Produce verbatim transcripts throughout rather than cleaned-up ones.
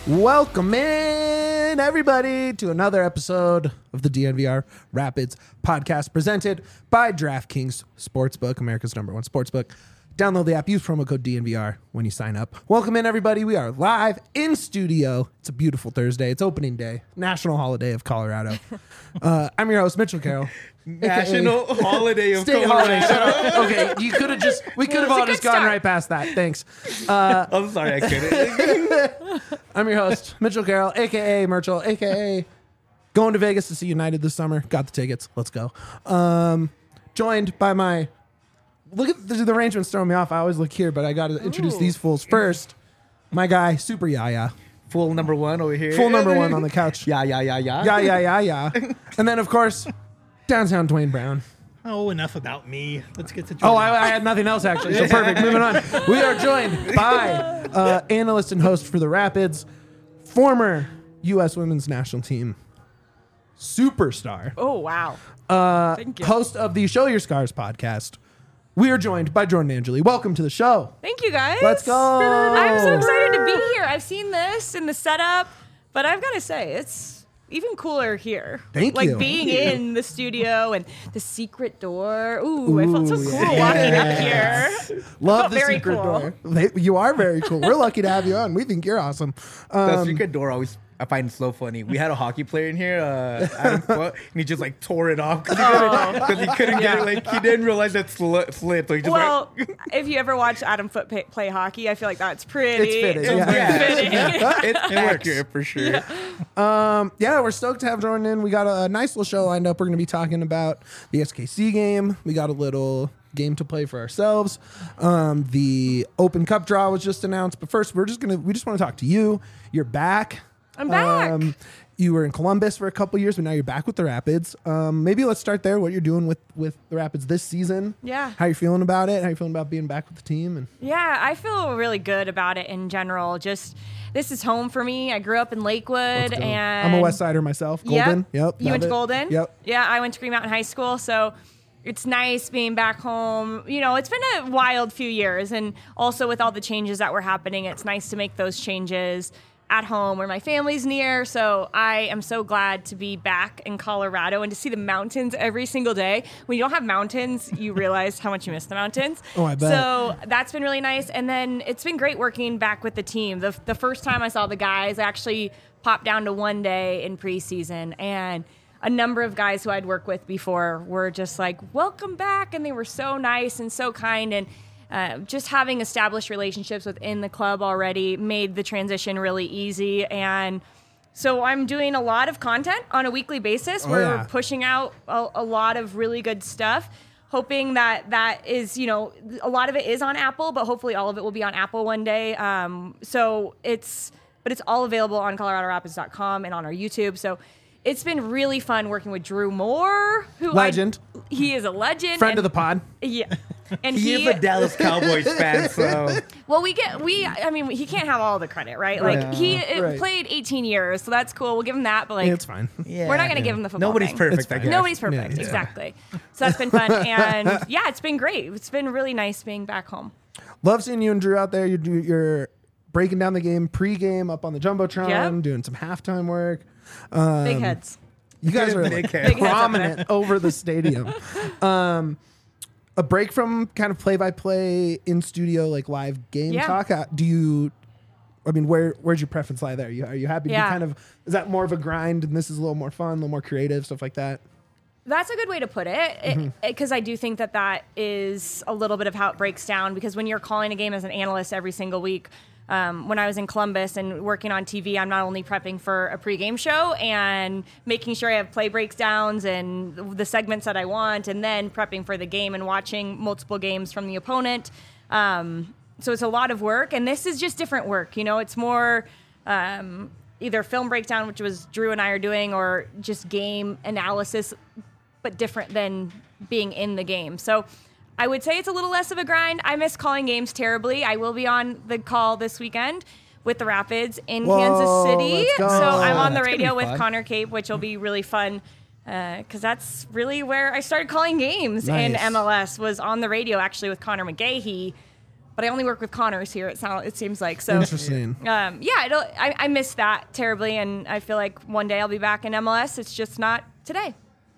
Welcome in, everybody, to another episode of the D N V R Rapids podcast presented by DraftKings Sportsbook, America's number one sportsbook. Download the app, use promo code D N V R when you sign up. Welcome in, everybody. We are live in studio. It's a beautiful Thursday. It's opening day, national holiday of Colorado. Uh, I'm your host, Mitchell Carroll. National Holiday of State Colorado. holiday. Shut up. Okay, you could have just, we could have all just gone start. right past that. Thanks. Uh, I'm sorry, I couldn't. I'm your host, Mitchell Carroll, a k a. Merchel, a k a going to Vegas to see United this summer. Got the tickets. Let's go. Um, joined by my... Look at the, the arrangements throwing me off. I always look here, but I got to introduce Ooh. these fools first. My guy, Super Yaya. Full number one over here. Full number one on the couch. Yeah, yeah, yeah, yeah. Yeah, yeah, yeah, yeah. And then, of course, downtown Dwayne Brown. Oh, enough about me. Let's get to Oh, Jordan. I, I had nothing else, actually. So perfect. Moving on. We are joined by uh, analyst and host for the Rapids, former U S women's national team superstar, Oh, wow. uh, Thank you. host of the Show Your Scars podcast. We are joined by Jordan Angeli. Welcome to the show. Thank you, guys. Let's go. I'm so excited to be here. I've seen this in the setup, but I've got to say, it's even cooler here. Thank like you. Like being Thank you. in the studio and the secret door. Ooh, I felt so Ooh, cool yeah. walking up here. Love felt the very secret cool. door. They, you are very cool. We're lucky to have you on. We think you're awesome. The Um, secret door always, I find it so funny. We had a hockey player in here, uh, Adam Foote, and he just like tore it off because he couldn't, 'cause he couldn't get it. Like he didn't realize that sli- slid, so he just Well, went. if you ever watch Adam Foote pay, play hockey, I feel like that's pretty. It's fitting, It's yeah. Yeah. fitting. It's accurate for sure. Um, yeah, we're stoked to have Jordan in. We got a, a nice little show lined up. We're going to be talking about the S K C game. We got a little game to play for ourselves. Um, the Open Cup draw was just announced. But first, we're just going to, we just want to talk to you. You're back. I'm back. Um, you were in Columbus for a couple years, but now you're back with the Rapids. Um, maybe let's start there. What you're doing with, with the Rapids this season. Yeah. How you feeling about it? How you feeling about being back with the team? And Yeah, I feel really good about it in general. Just this is home for me. I grew up in Lakewood, Let's go. and I'm a West Sider myself. Golden. Yep. You love went to it. Golden. Yep. Yeah, I went to Green Mountain High School, so it's nice being back home. You know, it's been a wild few years, and also with all the changes that were happening, it's nice to make those changes at home where my family's near. So I am so glad to be back in Colorado and to see the mountains every single day. When you don't have mountains, you realize how much you miss the mountains. Oh, I bet. So that's been really nice. And then it's been great working back with the team. The, the first time I saw the guys, I actually popped down to one day in preseason, and a number of guys who I'd worked with before were just like, welcome back. And they were so nice and so kind. And Uh, just having established relationships within the club already made the transition really easy. And so I'm doing a lot of content on a weekly basis. Oh, We're yeah. pushing out a, a lot of really good stuff, hoping that that is, you know, a lot of it is on Apple, but hopefully all of it will be on Apple one day. Um, so it's, but it's all available on Colorado Rapids dot com and on our YouTube. So it's been really fun working with Drew Moore, who Legend. I, he is a legend, Friend and- of the pod. yeah. And He, he, is a Dallas Cowboys fan, so well, we get we. I mean, he can't have all the credit, right? Like Right. he it Right. played eighteen years, so that's cool. We'll give him that. But like, Yeah, it's fine. yeah. we're not going to give him the football. Nobody's thing. perfect. It's I fine. guess. Nobody's perfect. Yeah. Exactly. So that's been fun, and yeah, it's been great. It's been really nice being back home. Love seeing you and Drew out there. You're, do- you're breaking down the game pre-game up on the Jumbotron, Yep. doing some halftime work. Um, Big heads. You guys are Big like heads. Big heads up prominent over the stadium. Um, a break from kind of play-by-play in studio, like live game Yeah. talk. Uh, Do you? I mean, where where's your preference lie there? You, are you happy to Yeah. be kind of? Is that more of a grind, and this is a little more fun, a little more creative, stuff like that? That's a good way to put it, because I do think that that is a little bit of how it breaks down. Because when you're calling a game as an analyst every single week, um, when I was in Columbus and working on T V, I'm not only prepping for a pregame show and making sure I have play breakdowns and the segments that I want, and then prepping for the game and watching multiple games from the opponent. Um, so it's a lot of work, and this is just different work. You know, it's more um, either film breakdown, which was Drew and I are doing, or just game analysis, but different than being in the game. So I would say it's a little less of a grind. I miss calling games terribly. I will be on the call this weekend with the Rapids in Whoa, Kansas City. let's go. So I'm on the That's gonna radio be with fun. Connor Cape, which will be really fun. Because that's really where I started calling games in Nice. M L S, was on the radio actually with Connor McGahee but I only work with Connors here. It sounds, it seems like so. Interesting. Um, yeah, I, don't, I I miss that terribly, and I feel like one day I'll be back in M L S. It's just not today.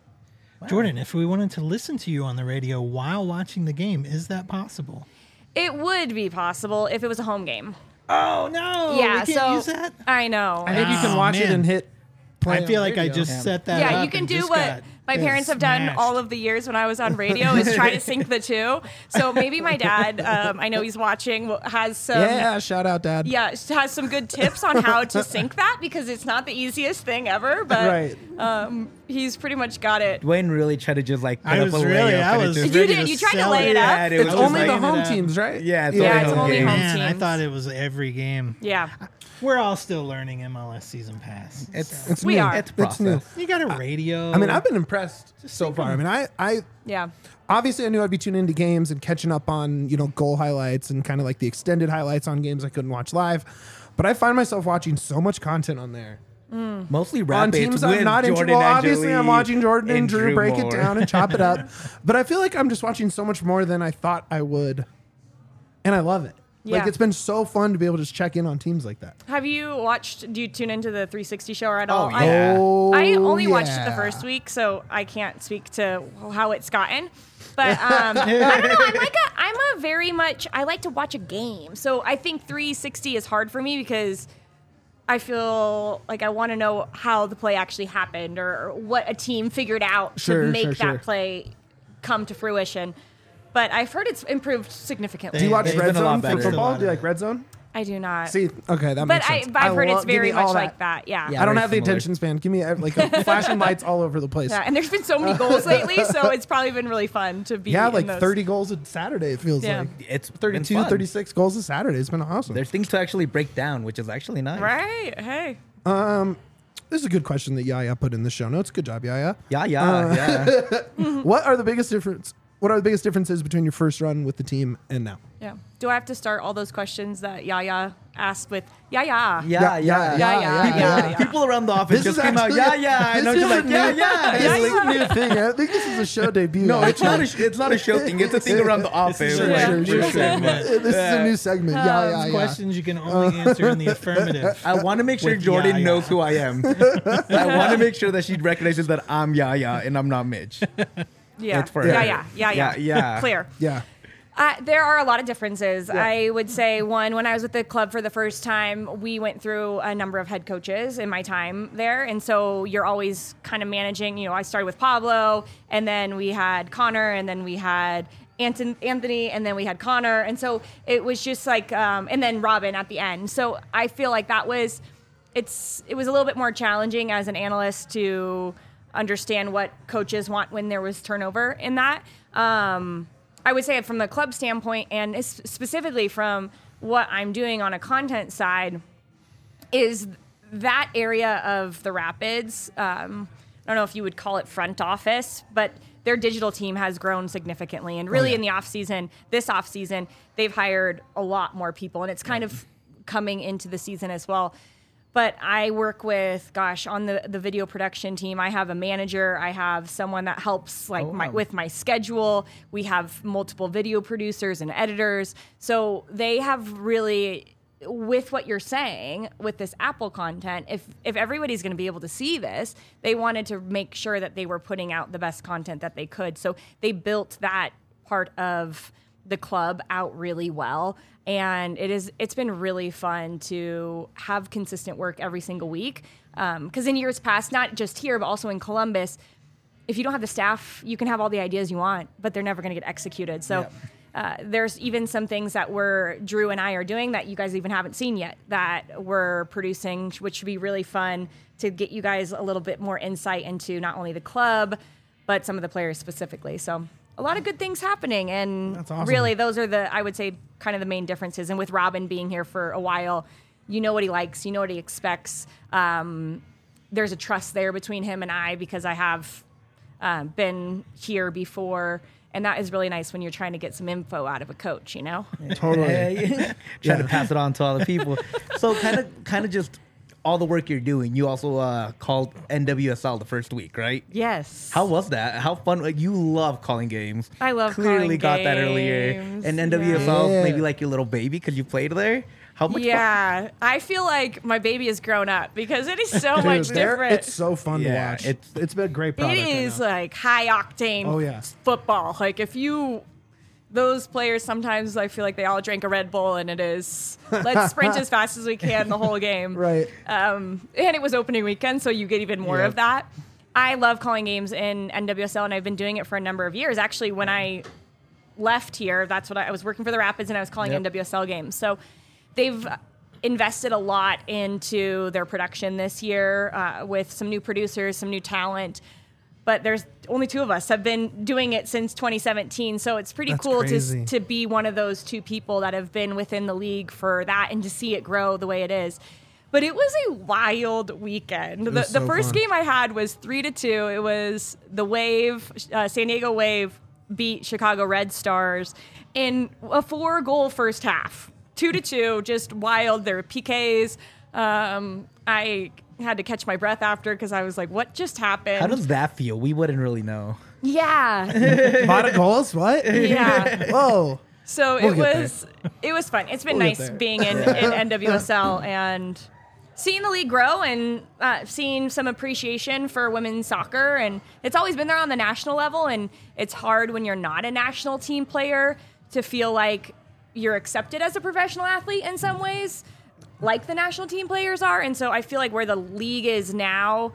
Jordan, if we wanted to listen to you on the radio while watching the game, is that possible? It would be possible if it was a home game. Oh no! yeah, we can't so use that. I know. I think you can Oh, watch it man. and hit play I on feel like I radio. just Yeah. set that yeah, up you can and do just what got my parents have done smashed. all of the years when I was on radio is try to sync the two. So maybe my dad, um, I know he's watching, will- has some. Yeah, shout out, Dad. Yeah, has some good tips on how to sync that because it's not the easiest thing ever, but Right. um, he's pretty much got it. Dwayne really tried to just like put I up was a really- layup I and it was just- You ready did, to you tried to sell lay it it. up. Yeah, it It's was only just the like- home it up. teams, right? Yeah, it's Yeah, only it's home only game. home Man, I teams. thought it was every game. Yeah. We're all still learning M L S season pass. It's so. It's We new. are. It's It's new. process. You got a radio. I mean, I've been impressed so sync far. I them. mean, I, I Yeah. obviously I knew I'd be tuning into games and catching up on, you know, goal highlights and kind of like the extended highlights on games I couldn't watch live. But I find myself watching so much content on there. Mostly On Rapids teams with I'm not into. Jordan Well, obviously I'm Angeli watching Jordan and and Drew break it Moore. down and chop it up. But I feel like I'm just watching so much more than I thought I would. And I love it. Like, Yeah. it's been so fun to be able to just check in on teams like that. Have you watched, do you tune into the three sixty show at all? Oh, I- yeah. Oh, I only watched it the yeah. first week, so I can't speak to how it's gotten. But um, I don't know. I'm like a, I'm a very much. I like to watch a game, so I think three sixty is hard for me because I feel like I want to know how the play actually happened or what a team figured out Sure, to make sure, that sure. play come to fruition. But I've heard it's improved significantly. Do you watch They've Red been a lot Zone for better. football? Do you like Red Zone? I do not. See, okay, that but makes I, sense. but I've heard love- it's give very me all much like that. Yeah. Yeah. I don't very have the similar. attention span. Give me uh, like a flashing lights all over the place. Yeah, and there's been so many goals lately, so it's probably been really fun to be. Yeah, in like those. thirty goals a Saturday, it feels Yeah. like. It's been thirty-two, fun. thirty-six goals a Saturday. It's been awesome. There's things to actually break down, which is actually nice. Right? Hey. This is a good question that Yaya put in the show notes. Good job, Yaya. Yeah, yeah, yeah. What are the biggest difference? What are the biggest differences between your first run with the team and now? Yeah. Do I have to start all those questions that Yaya asked with yeah, yeah? Yeah, yeah, Yeah, yeah, People, yeah, yeah. people around the office just came out, yeah, yeah. And this I'm just is like, a yeah, new- yeah. This It's is like- a new thing. I think this is a show debut. No, it's not a actually. sh- it's not a show thing. It's a thing around the office. Sure, Like, sure, we're sure, just sure. saying, This but- is a new segment. Yeah, yeah, yeah. questions you can only answer in the affirmative. I want to make sure With Jordan Yaya. knows who I am. I want to make sure that she recognizes that I'm Yaya and I'm not Mitch. Yeah. It's for yeah, her. yeah, yeah, yeah, Yeah, yeah. Clear. Yeah. Uh, there are a lot of differences. I would say one, when I was with the club for the first time, we went through a number of head coaches in my time there. And so you're always kind of managing, you know, I started with Pablo and then we had Connor and then we had Anton- Anthony and then we had Connor. And so it was just like, um, and then Robin at the end. So I feel like that was, it's, it was a little bit more challenging as an analyst to understand what coaches want when there was turnover in that. Um, I would say from the club standpoint and es- specifically from what I'm doing on a content side is that area of the Rapids. Um, I don't know if you would call it front office, but their digital team has grown significantly. And really yeah. in the off season, this off season, they've hired a lot more people and it's kind of coming into the season as well. But I work with, gosh, on the, the video production team, I have a manager. I have someone that helps like Oh, my, wow. with my schedule. We have multiple video producers and editors. So they have really, with what you're saying, with this Apple content, if, if everybody's going to be able to see this, they wanted to make sure that they were putting out the best content that they could. So they built that part of the club out really well. And it is, it's been really fun to have consistent work every single week. Because in years past, not just here, but also in Columbus, if you don't have the staff, you can have all the ideas you want, but they're never going to get executed. So uh, there's even some things that we're, Drew and I are doing that you guys even haven't seen yet that we're producing, which should be really fun to get you guys a little bit more insight into not only the club, but some of the players specifically. So a lot of good things happening. And That's awesome. really, those are the, I would say, kind of the main differences. And with Robin being here for a while, you know what he likes, you know what he expects. Um, there's a trust there between him and I because I have um, been here before. And that is really nice when you're trying to get some info out of a coach, you know? Totally. Trying Yeah. to pass it on to other people. So kind of, kind of just all the work you're doing, you also uh, called N W S L the first week, right? Yes. How was that? How fun? Like, you love calling games. I love Clearly calling got that earlier. games, And N W S L yeah. maybe like your little baby because you played there. How much? Yeah, I feel like my baby has grown up because it is so much Dude, they're- different. it's so fun Yeah, to watch. it's- it's been a great It product. right is now. like high octane Oh, yeah. football. Like if you, those players sometimes I feel like they all drank a Red Bull and it is let's sprint as fast as we can the whole game. Right. Um, and it was opening weekend, so you get even more Yep. of that. I love calling games in N W S L, and I've been doing it for a number of years. Actually, when I left here, that's what I, I was working for the Rapids, and I was calling Yep. N W S L games. So they've invested a lot into their production this year uh, with some new producers, some new talent. But there's only two of us have been doing it since twenty seventeen, so it's pretty That's cool crazy. to to be one of those two people that have been within the league for that and to see it grow the way it is. But it was a wild weekend. The, was the so first fun. game I had was three to two. It was the Wave, uh, San Diego Wave beat Chicago Red Stars in a four goal first half. Two to two, just wild. There were P Ks. Um, I had to catch my breath after because I was like, what just happened? How does that feel? We wouldn't really know. yeah. A lot of goals? What? Yeah. Whoa. So We'll it get was it was fun. It's been We'll get nice there. being in, in N W S L and seeing the league grow and uh, seeing some appreciation for women's soccer. And it's always been there on the national level. And it's hard when you're not a national team player to feel like you're accepted as a professional athlete in some ways, like the national team players are. And so I feel like where the league is now,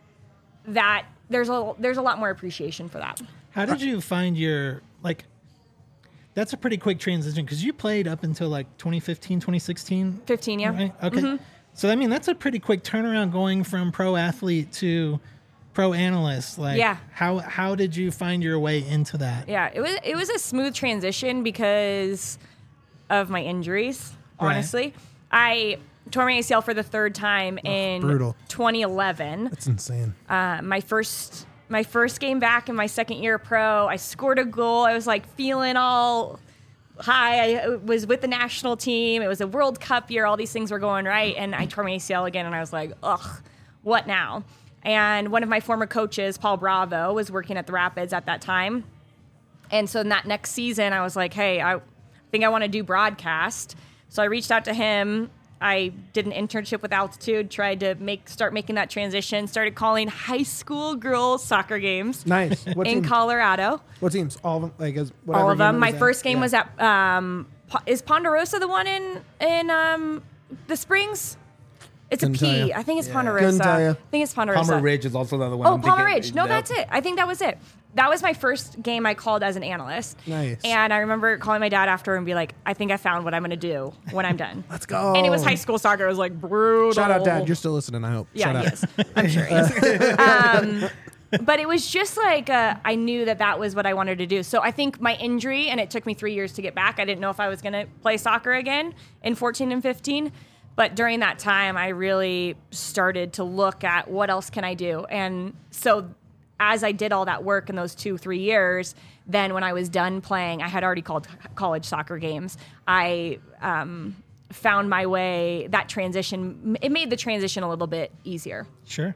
that there's a there's a lot more appreciation for that. How did you find your, like, that's a pretty quick transition because you played up until like twenty fifteen, twenty sixteen. fifteen, yeah. Right? Okay. So, I mean, that's a pretty quick turnaround going from pro athlete to pro analyst. Like, Yeah. how how did you find your way into that? Yeah, it was it was a smooth transition because of my injuries. Right. Honestly, I tore my A C L for the third time in brutal. twenty eleven. That's insane. Uh, my first my first game back in my second year pro, I scored a goal. I was like feeling all high. I was with the national team. It was a World Cup year. All these things were going right, and I tore my A C L again. And I was like, ugh, what now? And one of my former coaches, Paul Bravo, was working at the Rapids at that time. And so in that next season, I was like, hey, I think I want to do broadcast. So I reached out to him. I did an internship with Altitude, tried to make start making that transition, started calling high school girls soccer games Nice. What in team? Colorado. What teams? All of them? Like, as whatever All of them. unit My was at? first game Yeah. was at, um, Po- is Ponderosa the one in, in um, the Springs? It's Couldn't a tell P. ya. I think it's Yeah. Ponderosa. Couldn't tell ya. I think it's Ponderosa. Palmer Ridge is also the other one. Oh, I'm Palmer thinking. Ridge. No, Yep. that's it. I think that was it. That was my first game I called as an analyst. Nice. And I remember calling my dad after and be like, I think I found what I'm going to do when I'm done. Let's go. And it was high school soccer. It was like brutal. Shout out, Dad. You're still listening, I hope. Yeah, Shout he out. is. I'm sure he is. Um, but it was just like uh, I knew that that was what I wanted to do. So I think my injury, and it took me three years to get back. I didn't know if I was going to play soccer again in fourteen and fifteen. But during that time, I really started to look at what else can I do. And so as I did all that work in those two, three years, then when I was done playing, I had already called college soccer games. I um, found my way, that transition, it made the transition a little bit easier. Sure.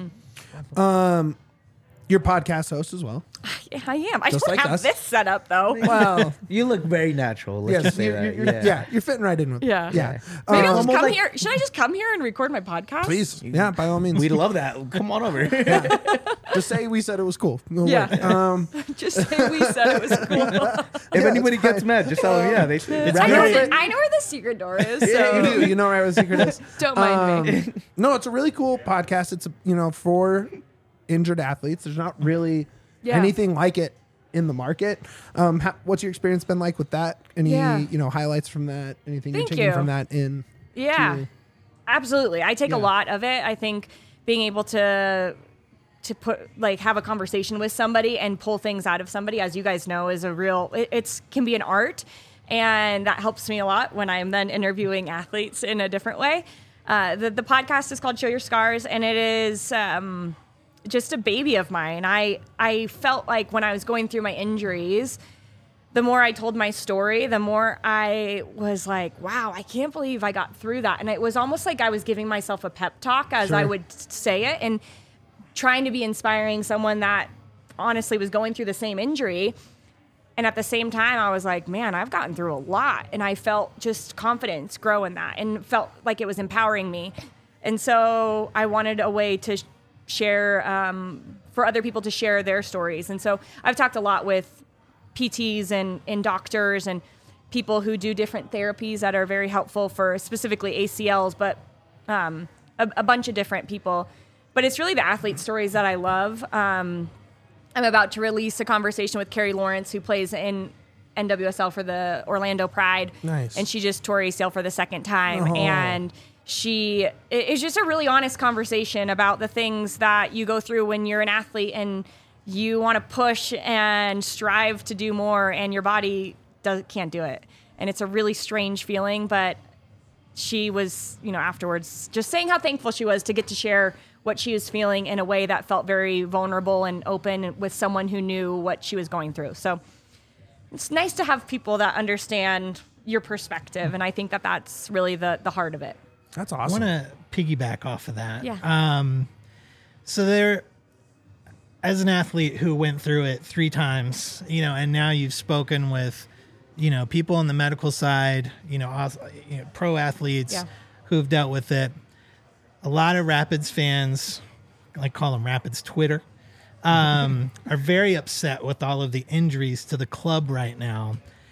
Your podcast host as well. Yeah, I am. I Just don't like have us. this set up though. Well, You look very natural. Let's yes, just say you, that. you're, yeah. yeah, you're fitting right in with Yeah. Yeah. Maybe I'll Um, just come here. Should I just come here and record my podcast? Please. Yeah, by all means. We'd love that. Come on over. Just say we said it was cool. No Yeah. way. Um, Just say we said it was cool. If Yeah, anybody it's gets fine. mad, just tell them, yeah, they it's I know, great. the, I know where the secret door is. So yeah, you do. You know where the secret is. don't mind me. Um, no, it's a really cool podcast. It's, you know, for injured athletes. There's not really Yeah. anything like it in the market. Um, how, what's your experience been like with that? Any, Yeah. you know, highlights from that? Anything Thank you're taking you. from that in? Yeah, to- absolutely. I take Yeah. a lot of it. I think being able to to put like have a conversation with somebody and pull things out of somebody, as you guys know, is a real. It, it's can be an art, and that helps me a lot when I'm then interviewing athletes in a different way. Uh, the the podcast is called Show Your Scars, and it is. Um, just a baby of mine. I I felt like when I was going through my injuries, the more I told my story, the more I was like, wow, I can't believe I got through that. And it was almost like I was giving myself a pep talk as Sure. I would say it, and trying to be inspiring someone that honestly was going through the same injury. And at the same time, I was like, man, I've gotten through a lot. And I felt just confidence grow in that and felt like it was empowering me. And so I wanted a way to sh- share, um, for other people to share their stories. And so I've talked a lot with P Ts and, and doctors and people who do different therapies that are very helpful for specifically A C Ls, but um, a, a bunch of different people. But it's really the athlete stories that I love. Um, I'm about to release a conversation with Carrie Lawrence, who plays in N W S L for the Orlando Pride. Nice. And she just tore A C L for the second time. Oh. And she, it's just a really honest conversation about the things that you go through when you're an athlete and you want to push and strive to do more, and your body does, can't do it. And it's a really strange feeling, but she was, you know, afterwards just saying how thankful she was to get to share what she was feeling in a way that felt very vulnerable and open with someone who knew what she was going through. So it's nice to have people that understand your perspective, and I think that that's really the, the heart of it. That's I awesome. want to piggyback off of that. Yeah. Um, so there, as an athlete who went through it three times, you know, and now you've spoken with, you know, people on the medical side, you know, aus- you know pro athletes Yeah. who have dealt with it. A lot of Rapids fans, I like call them Rapids Twitter, um, are very upset with all of the injuries to the club right now.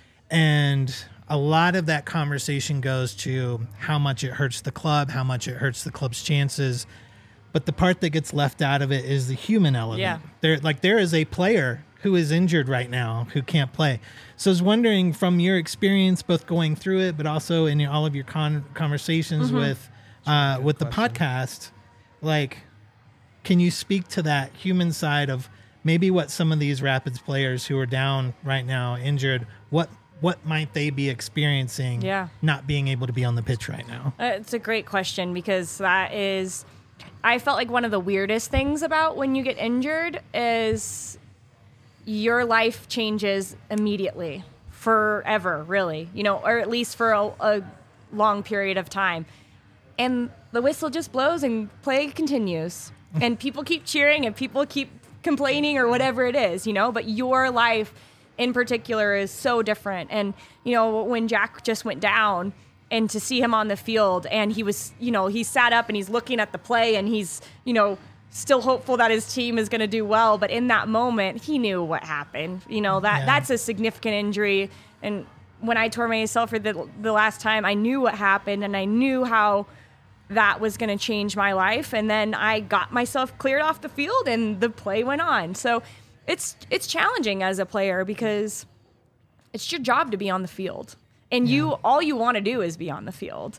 And a lot of that conversation goes to how much it hurts the club, how much it hurts the club's chances. But the part that gets left out of it is the human element. Yeah. There, like there is a player who is injured right now who can't play. So I was wondering, from your experience, both going through it, but also in all of your con- conversations Mm-hmm. with uh, with the podcast, like, can you speak to that human side of maybe what some of these Rapids players who are down right now, injured, what what might they be experiencing? Yeah. Not being able to be on the pitch right now. Uh, it's a great question, because that is, I felt like one of the weirdest things about when you get injured is your life changes immediately, forever, really, you know, or at least for a, a long period of time. And the whistle just blows and play continues. And people keep cheering and people keep complaining or whatever it is, you know, but your life in particular is so different. And, you know, when Jack just went down, and to see him on the field, and he was, you know, he sat up and he's looking at the play, and he's, you know, still hopeful that his team is going to do well. But in that moment, he knew what happened. You know, that Yeah. that's a significant injury. And when I tore my A C L for the, the last time, I knew what happened, and I knew how that was going to change my life. And then I got myself cleared off the field, and the play went on. So it's it's challenging as a player, because it's your job to be on the field, and you all you want to do is be on the field.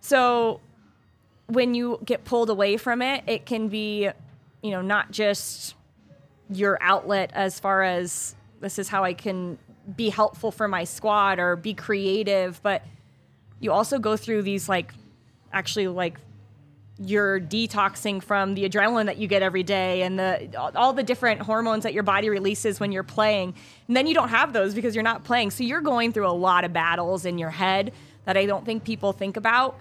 So when you get pulled away from it, it can be, you know, not just your outlet as far as this is how I can be helpful for my squad or be creative, but you also go through these, like, actually, like, you're detoxing from the adrenaline that you get every day and the all the different hormones that your body releases when you're playing. And then you don't have those because you're not playing. So you're going through a lot of battles in your head that I don't think people think about.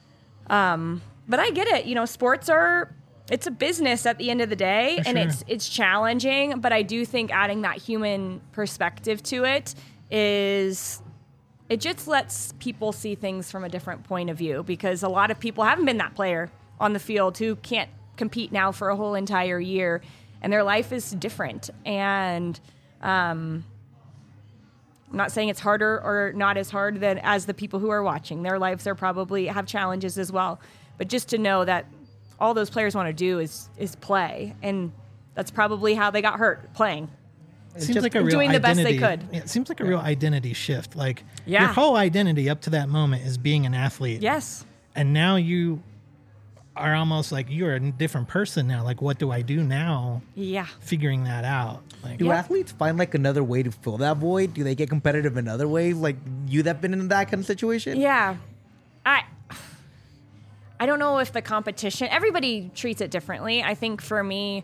Um, but I get it. You know, sports are, it's a business at the end of the day, For and sure. it's it's challenging. But I do think adding that human perspective to it is, it just lets people see things from a different point of view, because a lot of people haven't been that player on the field who can't compete now for a whole entire year, and their life is different. And um, I'm not saying it's harder or not as hard than as the people who are watching. Their lives are probably have challenges as well. But just to know that all those players want to do is is play, and that's probably how they got hurt, playing. It seems like a real doing the best identity. they could. Yeah, it seems like a real identity shift. Like Yeah. your whole identity up to that moment is being an athlete. Yes. And now you are almost like you're a different person now. Like, what do I do now? Yeah. Figuring that out. Like, Do Yeah. athletes find like another way to fill that void? Do they get competitive in other ways? Like you that been in that kind of situation? Yeah. I I don't know if the competition, everybody treats it differently. I think for me,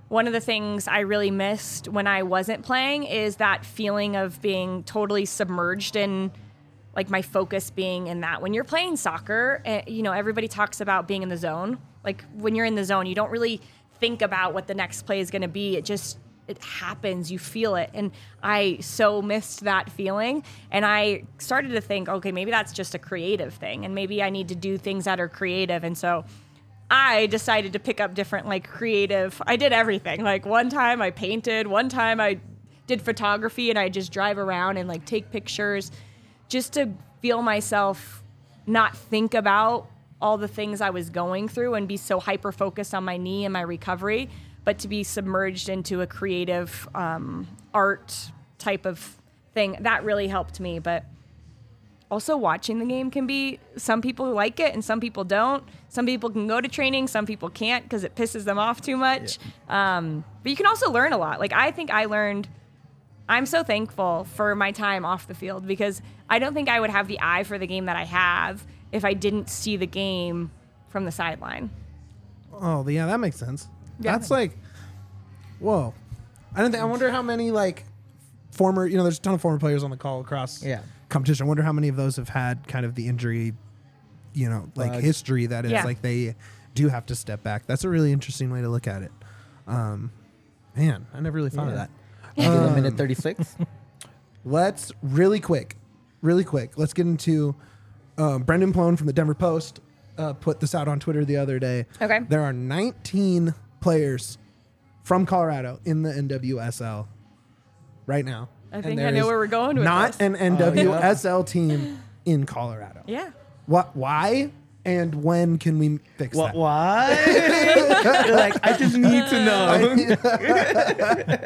one of the things I really missed when I wasn't playing is that feeling of being totally submerged in, like, my focus being in that. When you're playing soccer, uh, you know, everybody talks about being in the zone. Like, when you're in the zone, you don't really think about what the next play is going to be. It just, it happens. You feel it. And I so missed that feeling. And I started to think, okay, maybe that's just a creative thing. And maybe I need to do things that are creative. And so I decided to pick up different, like, creative. I did everything. Like, one time I painted, one time I did photography, and I just drive around and, like, take pictures just to feel myself not think about all the things I was going through and be so hyper focused on my knee and my recovery, but to be submerged into a creative um, art type of thing. That really helped me. But also, watching the game can be, some people like it and some people don't. Some people can go to training, some people can't because it pisses them off too much. Yeah. Um, but you can also learn a lot. Like, I think I learned, I'm so thankful for my time off the field because I don't think I would have the eye for the game that I have if I didn't see the game from the sideline. Oh, yeah, that makes sense. Yeah. That's like, whoa. I don't think, I wonder how many, like, former, you know, there's a ton of former players on the call across Yeah. competition. I wonder how many of those have had kind of the injury, you know, like Bug. history that is Yeah. like they do have to step back. That's a really interesting way to look at it. Um, man, I never really thought Yeah. of that. Give it a Um, minute thirty-six. Let's really quick, really quick. Let's get into um, Brendan Plone from the Denver Post uh, put this out on Twitter the other day. Okay. There are nineteen players from Colorado in the N W S L right now. I And think I there know is where we're going with not this. an N W S L team in Colorado. Yeah. What? Why? And when can we fix What? that? Why? You're like, I just need to know.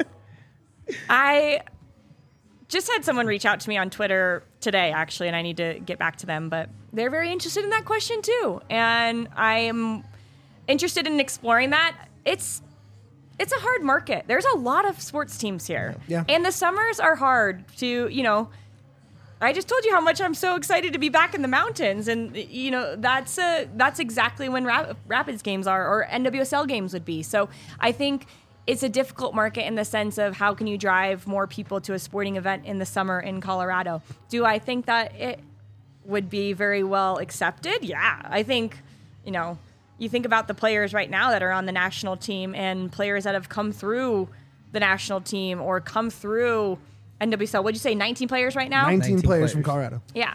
I just had someone reach out to me on Twitter today, actually, and I need to get back to them, but they're very interested in that question too. And I'm interested in exploring that. It's it's a hard market. There's a lot of sports teams here. Yeah. And the summers are hard to, you know, I just told you how much I'm so excited to be back in the mountains. And, you know, that's a, that's exactly when Rap- Rapids games are, or N W S L games would be. So I think it's a difficult market in the sense of how can you drive more people to a sporting event in the summer in Colorado? Do I think that it would be very well accepted? Yeah. I think, you know, you think about the players right now that are on the national team and players that have come through the national team or come through N W S L. What'd you say, nineteen players right now? nineteen, nineteen players, players. from Colorado. Yeah.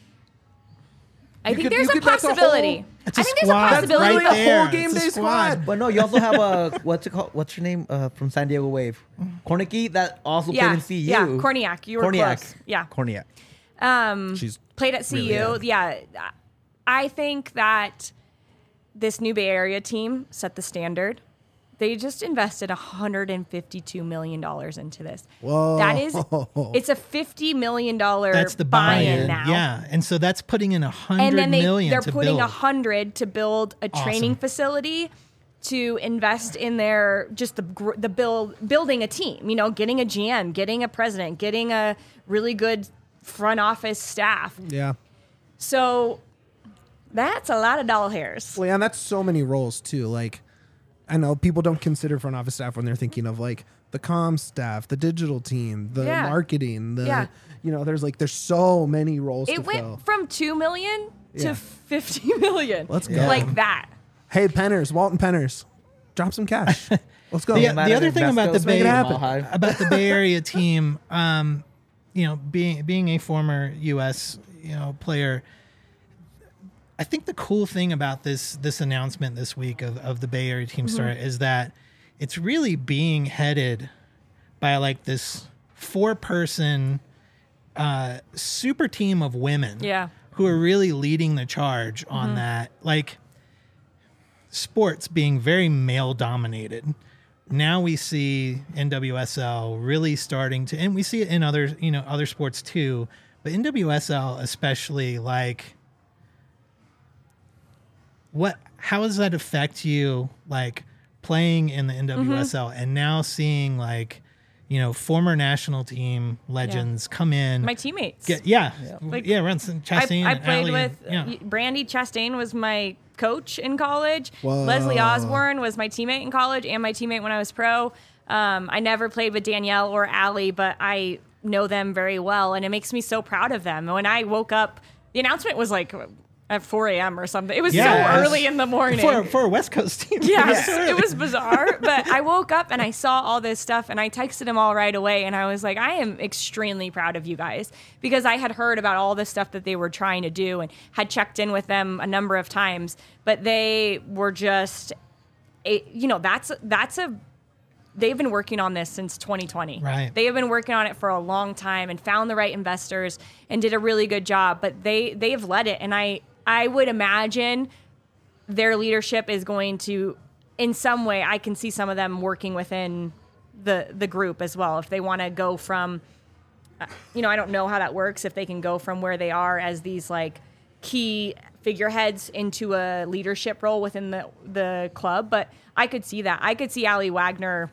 I You think could- there's you a could- that's a whole- possibility. It's I a think there's squad. a possibility. right That's there. a whole game It's a day squad. But no, you also have a what's it called? What's your name uh, from San Diego Wave? Kornicki that also Yeah, played in C U. yeah, Korniak. You were Korniak. close. Yeah. Korniak. Um, She's played at C U. really Yeah. I think that this new Bay Area team set the standard. They just invested one hundred fifty-two million dollars into this. Whoa. That is, it's a fifty million dollars That's the buy-in buy-in. now. Yeah, and so that's putting in a And hundred then they, million they're to putting build. a hundred to build a training Awesome. facility to invest in their just the gr- the build building a team. You know, getting a G M, getting a president, getting a really good front office staff. Yeah. So that's a lot of doll hairs. Well, yeah, and that's so many roles too. Like, I know people don't consider front office staff when they're thinking of like the comm staff, the digital team, the Yeah. marketing, the Yeah. you know, there's like there's so many roles It to went fill. from two million to Yeah. fifty million. Let's go. Like that. Hey, Penners, Walton Penners, drop some cash. Let's go. The, Yeah, the other thing about the Let's make Bay it happen. about the Bay Area team, um, you know, being being a former U S you know player, I think the cool thing about this this announcement this week of, of the Bay Area team start is that it's really being headed by like this four person uh, super team of women, Yeah. who are really leading the charge on that. Like sports being very male dominated. Now we see N W S L really starting to, and we see it in other, you know, other sports too, but N W S L especially, like, what, how does that affect you, like, playing in the N W S L and now seeing, like, you know, former national team legends come in. My teammates. Get, yeah, Like, like, yeah, Renson, Chastain. I, I and played Allie with and- yeah. Brandy Chastain was my coach in college. Whoa. Leslie Osborne was my teammate in college and my teammate when I was pro. Um, I never played with Danielle or Allie, but I know them very well, and it makes me so proud of them. When I woke up, the announcement was like at four a.m. or something. It was Yeah, so it was- early in the morning. For, for a West Coast team. Yes, it was bizarre. But I woke up and I saw all this stuff and I texted them all right away. And I was like, I am extremely proud of you guys because I had heard about all the stuff that they were trying to do and had checked in with them a number of times. But they were just, a, you know, that's that's a, they've been working on this since twenty twenty. Right. They have been working on it for a long time and found the right investors and did a really good job. But they they have led it. And I, I would imagine their leadership is going to, in some way, I can see some of them working within the the group as well. If they want to go from, uh, you know, I don't know how that works. If they can go from where they are as these like key figureheads into a leadership role within the the club, but I could see that. I could see Allie Wagner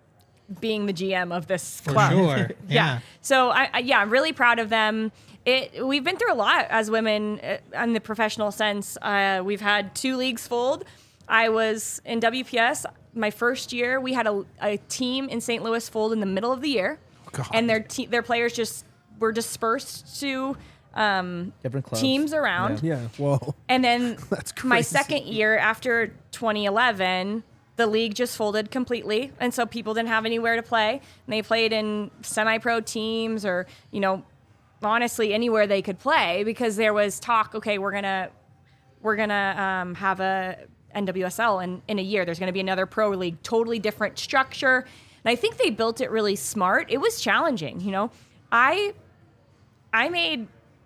being the G M of this For club. sure. yeah. Yeah. So I, I yeah, I'm really proud of them. It we've been through a lot as women uh, in the professional sense. Uh, we've had two leagues fold. I was in W P S my first year. We had a, a team in Saint Louis fold in the middle of the year, God. and their te- their players just were dispersed to um, Different clubs. teams around. Yeah. Whoa. And then That's my crazy. second year after twenty eleven, the league just folded completely. And so people didn't have anywhere to play. And they played in semi-pro teams or, you know, honestly anywhere they could play because there was talk, okay, we're going to we're going to um, have a N W S L in, in a year. There's going to be another pro league, totally different structure. And I think they built it really smart. It was challenging, you know. I I made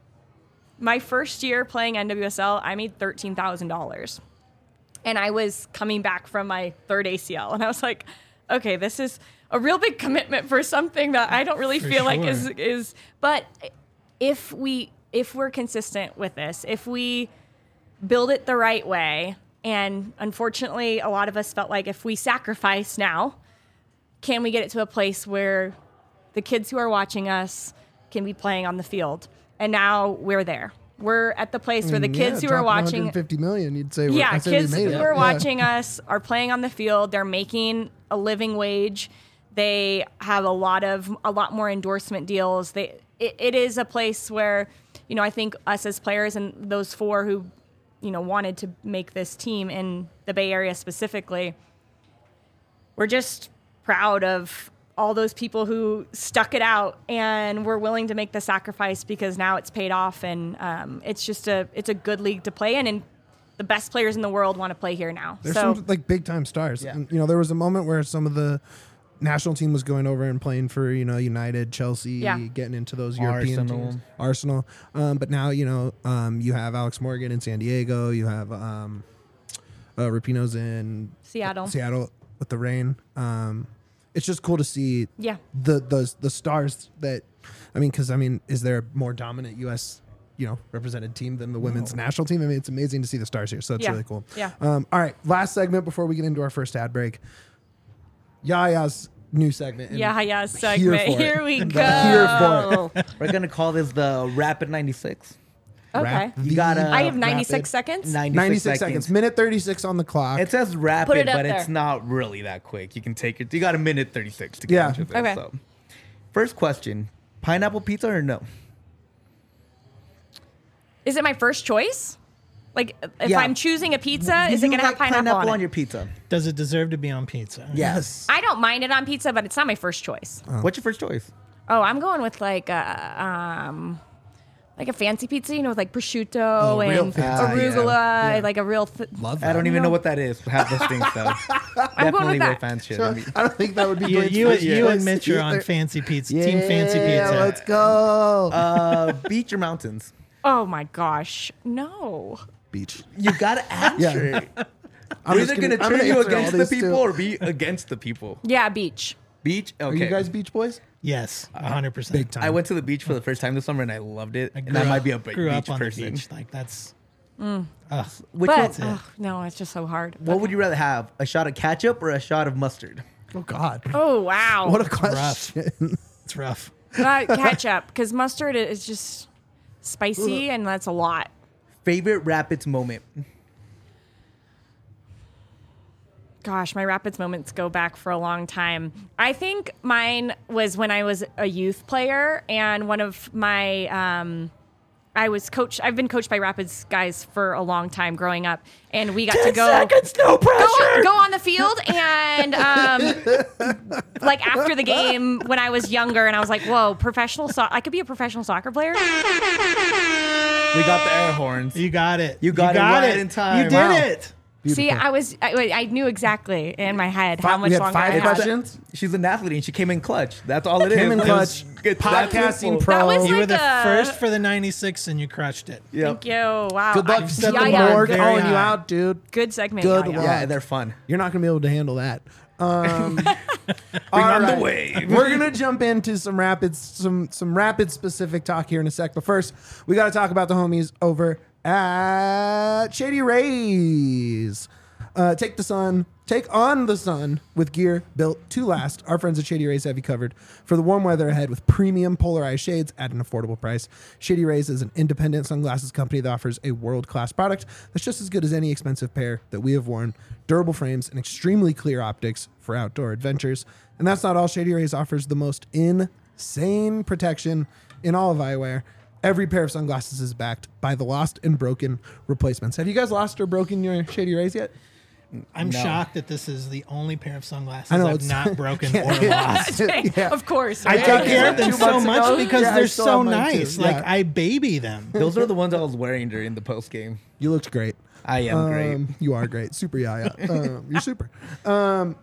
my first year playing N W S L, I made thirteen thousand dollars. And I was coming back from my third A C L. And I was like, okay, this is a real big commitment for something that I don't really For feel like sure. is, is, but if we, if we're consistent with this, if we build it the right way, and unfortunately, a lot of us felt like if we sacrifice now, can we get it to a place where the kids who are watching us can be playing on the field? And now we're there. We're at the place where the Mm, kids yeah, who are dropping watching, one hundred fifty million, you'd say, we're- yeah, I'd say we kids made who it. are Yeah. watching us are playing on the field. They're making a living wage. They have a lot of a lot more endorsement deals. They it, it is a place where, you know, I think us as players and those four who, you know, wanted to make this team in the Bay Area specifically, we're just proud of all those people who stuck it out and were willing to make the sacrifice because now it's paid off and um, it's just a it's a good league to play in and the best players in the world want to play here now. There's so some like big time stars. Yeah. And, you know, there was a moment where some of the national team was going over and playing for, you know, United, Chelsea, Yeah. getting into those European Arsenal. teams. Arsenal. Um, but now, you know, um, you have Alex Morgan in San Diego. You have um, uh, Rapinoe's in Seattle. Seattle with the Rain. Um, it's just cool to see Yeah. the the the stars that, I mean, because I mean, is there a more dominant U S you know represented team than the women's national team? I mean, it's amazing to see the stars here, so it's Yeah. really cool. Yeah. Um, all right, last segment before we get into our first ad break. Yaya's new segment. and Yeah, yeah, here segment. for it. Here we go. Here for We're gonna call this the Rapid ninety-six. Okay. Rap You gotta. I have ninety-six rapid. seconds. ninety-six, ninety-six seconds. minute thirty-six on the clock. It says rapid, Put it up but it's there. not really that quick. You can take it. You got a minute thirty-six to get Yeah. into this. Okay. So. First question: pineapple pizza or no? Is it my first choice? Like, if Yeah. I'm choosing a pizza, Do is it you going to have like pineapple, on, it? your pizza? Does it deserve to be on pizza? Yes. I don't mind it on pizza, but it's not my first choice. What's your first choice? Oh, I'm going with like a um, like a fancy pizza, you know, with like prosciutto Oh, real and fancy. arugula, Yeah. like a real. Th- Love that. I don't even No. know what that is. Have those things though. I'm going Definitely with way that. fancy. So, I don't think that would be You, Blake's you, first you choice and Mitch are on either. fancy pizza. Yeah, Team fancy pizza. let's go. uh, beach or mountains? oh my gosh, no. Beach. You gotta answer. I'm We're just either gonna, I'm turn you answer all against the these people too. or be against the people. Yeah, beach. Beach. Okay. Are you guys beach boys? Yes, one hundred percent. Big time. I went to the beach for the first time this summer and I loved it. I And grew I might up- be a big grew beach up on person. the beach. Like that's. Mm. Ugh. Which but one, it. oh, no, it's just so hard. what would you rather have? A shot of ketchup or a shot of mustard? Oh God. Oh wow. What a rough. question. It's rough. Uh, ketchup, because mustard is just spicy, and that's a lot. Favorite Rapids moment. Gosh, my Rapids moments go back for a long time. I think mine was when I was a youth player, and one of my, um, I was coached, I've been coached by Rapids guys for a long time growing up, and we got to go, seconds, no go, pressure. go on the field, and um, like after the game when I was younger, and I was like, whoa, professional soccer, I could be a professional soccer player. We got the air horns. You got it. You got it right in time. You did Wow. it. See, Beautiful. I was, I, I knew exactly in my head how Five- much we had longer five I had. questions. She's an athlete and she came in clutch. That's all it is. Came in It clutch. was- it's that Podcasting simple. pro. That was You were like the a- first for the ninety-six, and you crushed it. Yep. Thank you. Wow. Good luck I- set yeah, the yeah. morgue Very calling you high. out, dude. Good segment. Good yeah, yeah. luck. Yeah, they're fun. You're not gonna be able to handle that. Um, Bring all on the right. wave. We're gonna jump into some rapids, some some rapid specific talk here in a sec. But first, we got to talk about the homies over at Shady Rays. Uh, take the sun, take on the sun with gear built to last. Our friends at Shady Rays have you covered for the warm weather ahead with premium polarized shades at an affordable price. Shady Rays is an independent sunglasses company that offers a world-class product that's just as good as any expensive pair that we have worn. Durable frames and extremely clear optics for outdoor adventures. And that's not all. Shady Rays offers the most insane protection in all of eyewear. Every pair of sunglasses is backed by the lost and broken replacements. Have you guys lost or broken your Shady Rays yet? I'm No. shocked that this is the only pair of sunglasses I know, I've it's- not broken Yeah, or yeah. lost. Yeah. Of course. I right? take care of them Two so months much ago? because Yeah, I they're still so have mine too. nice. Yeah. Like I baby them. Those are the ones I was wearing during the post game. You looked great. I am great. Um, you are great. Super yaya. Um, you're super. Um,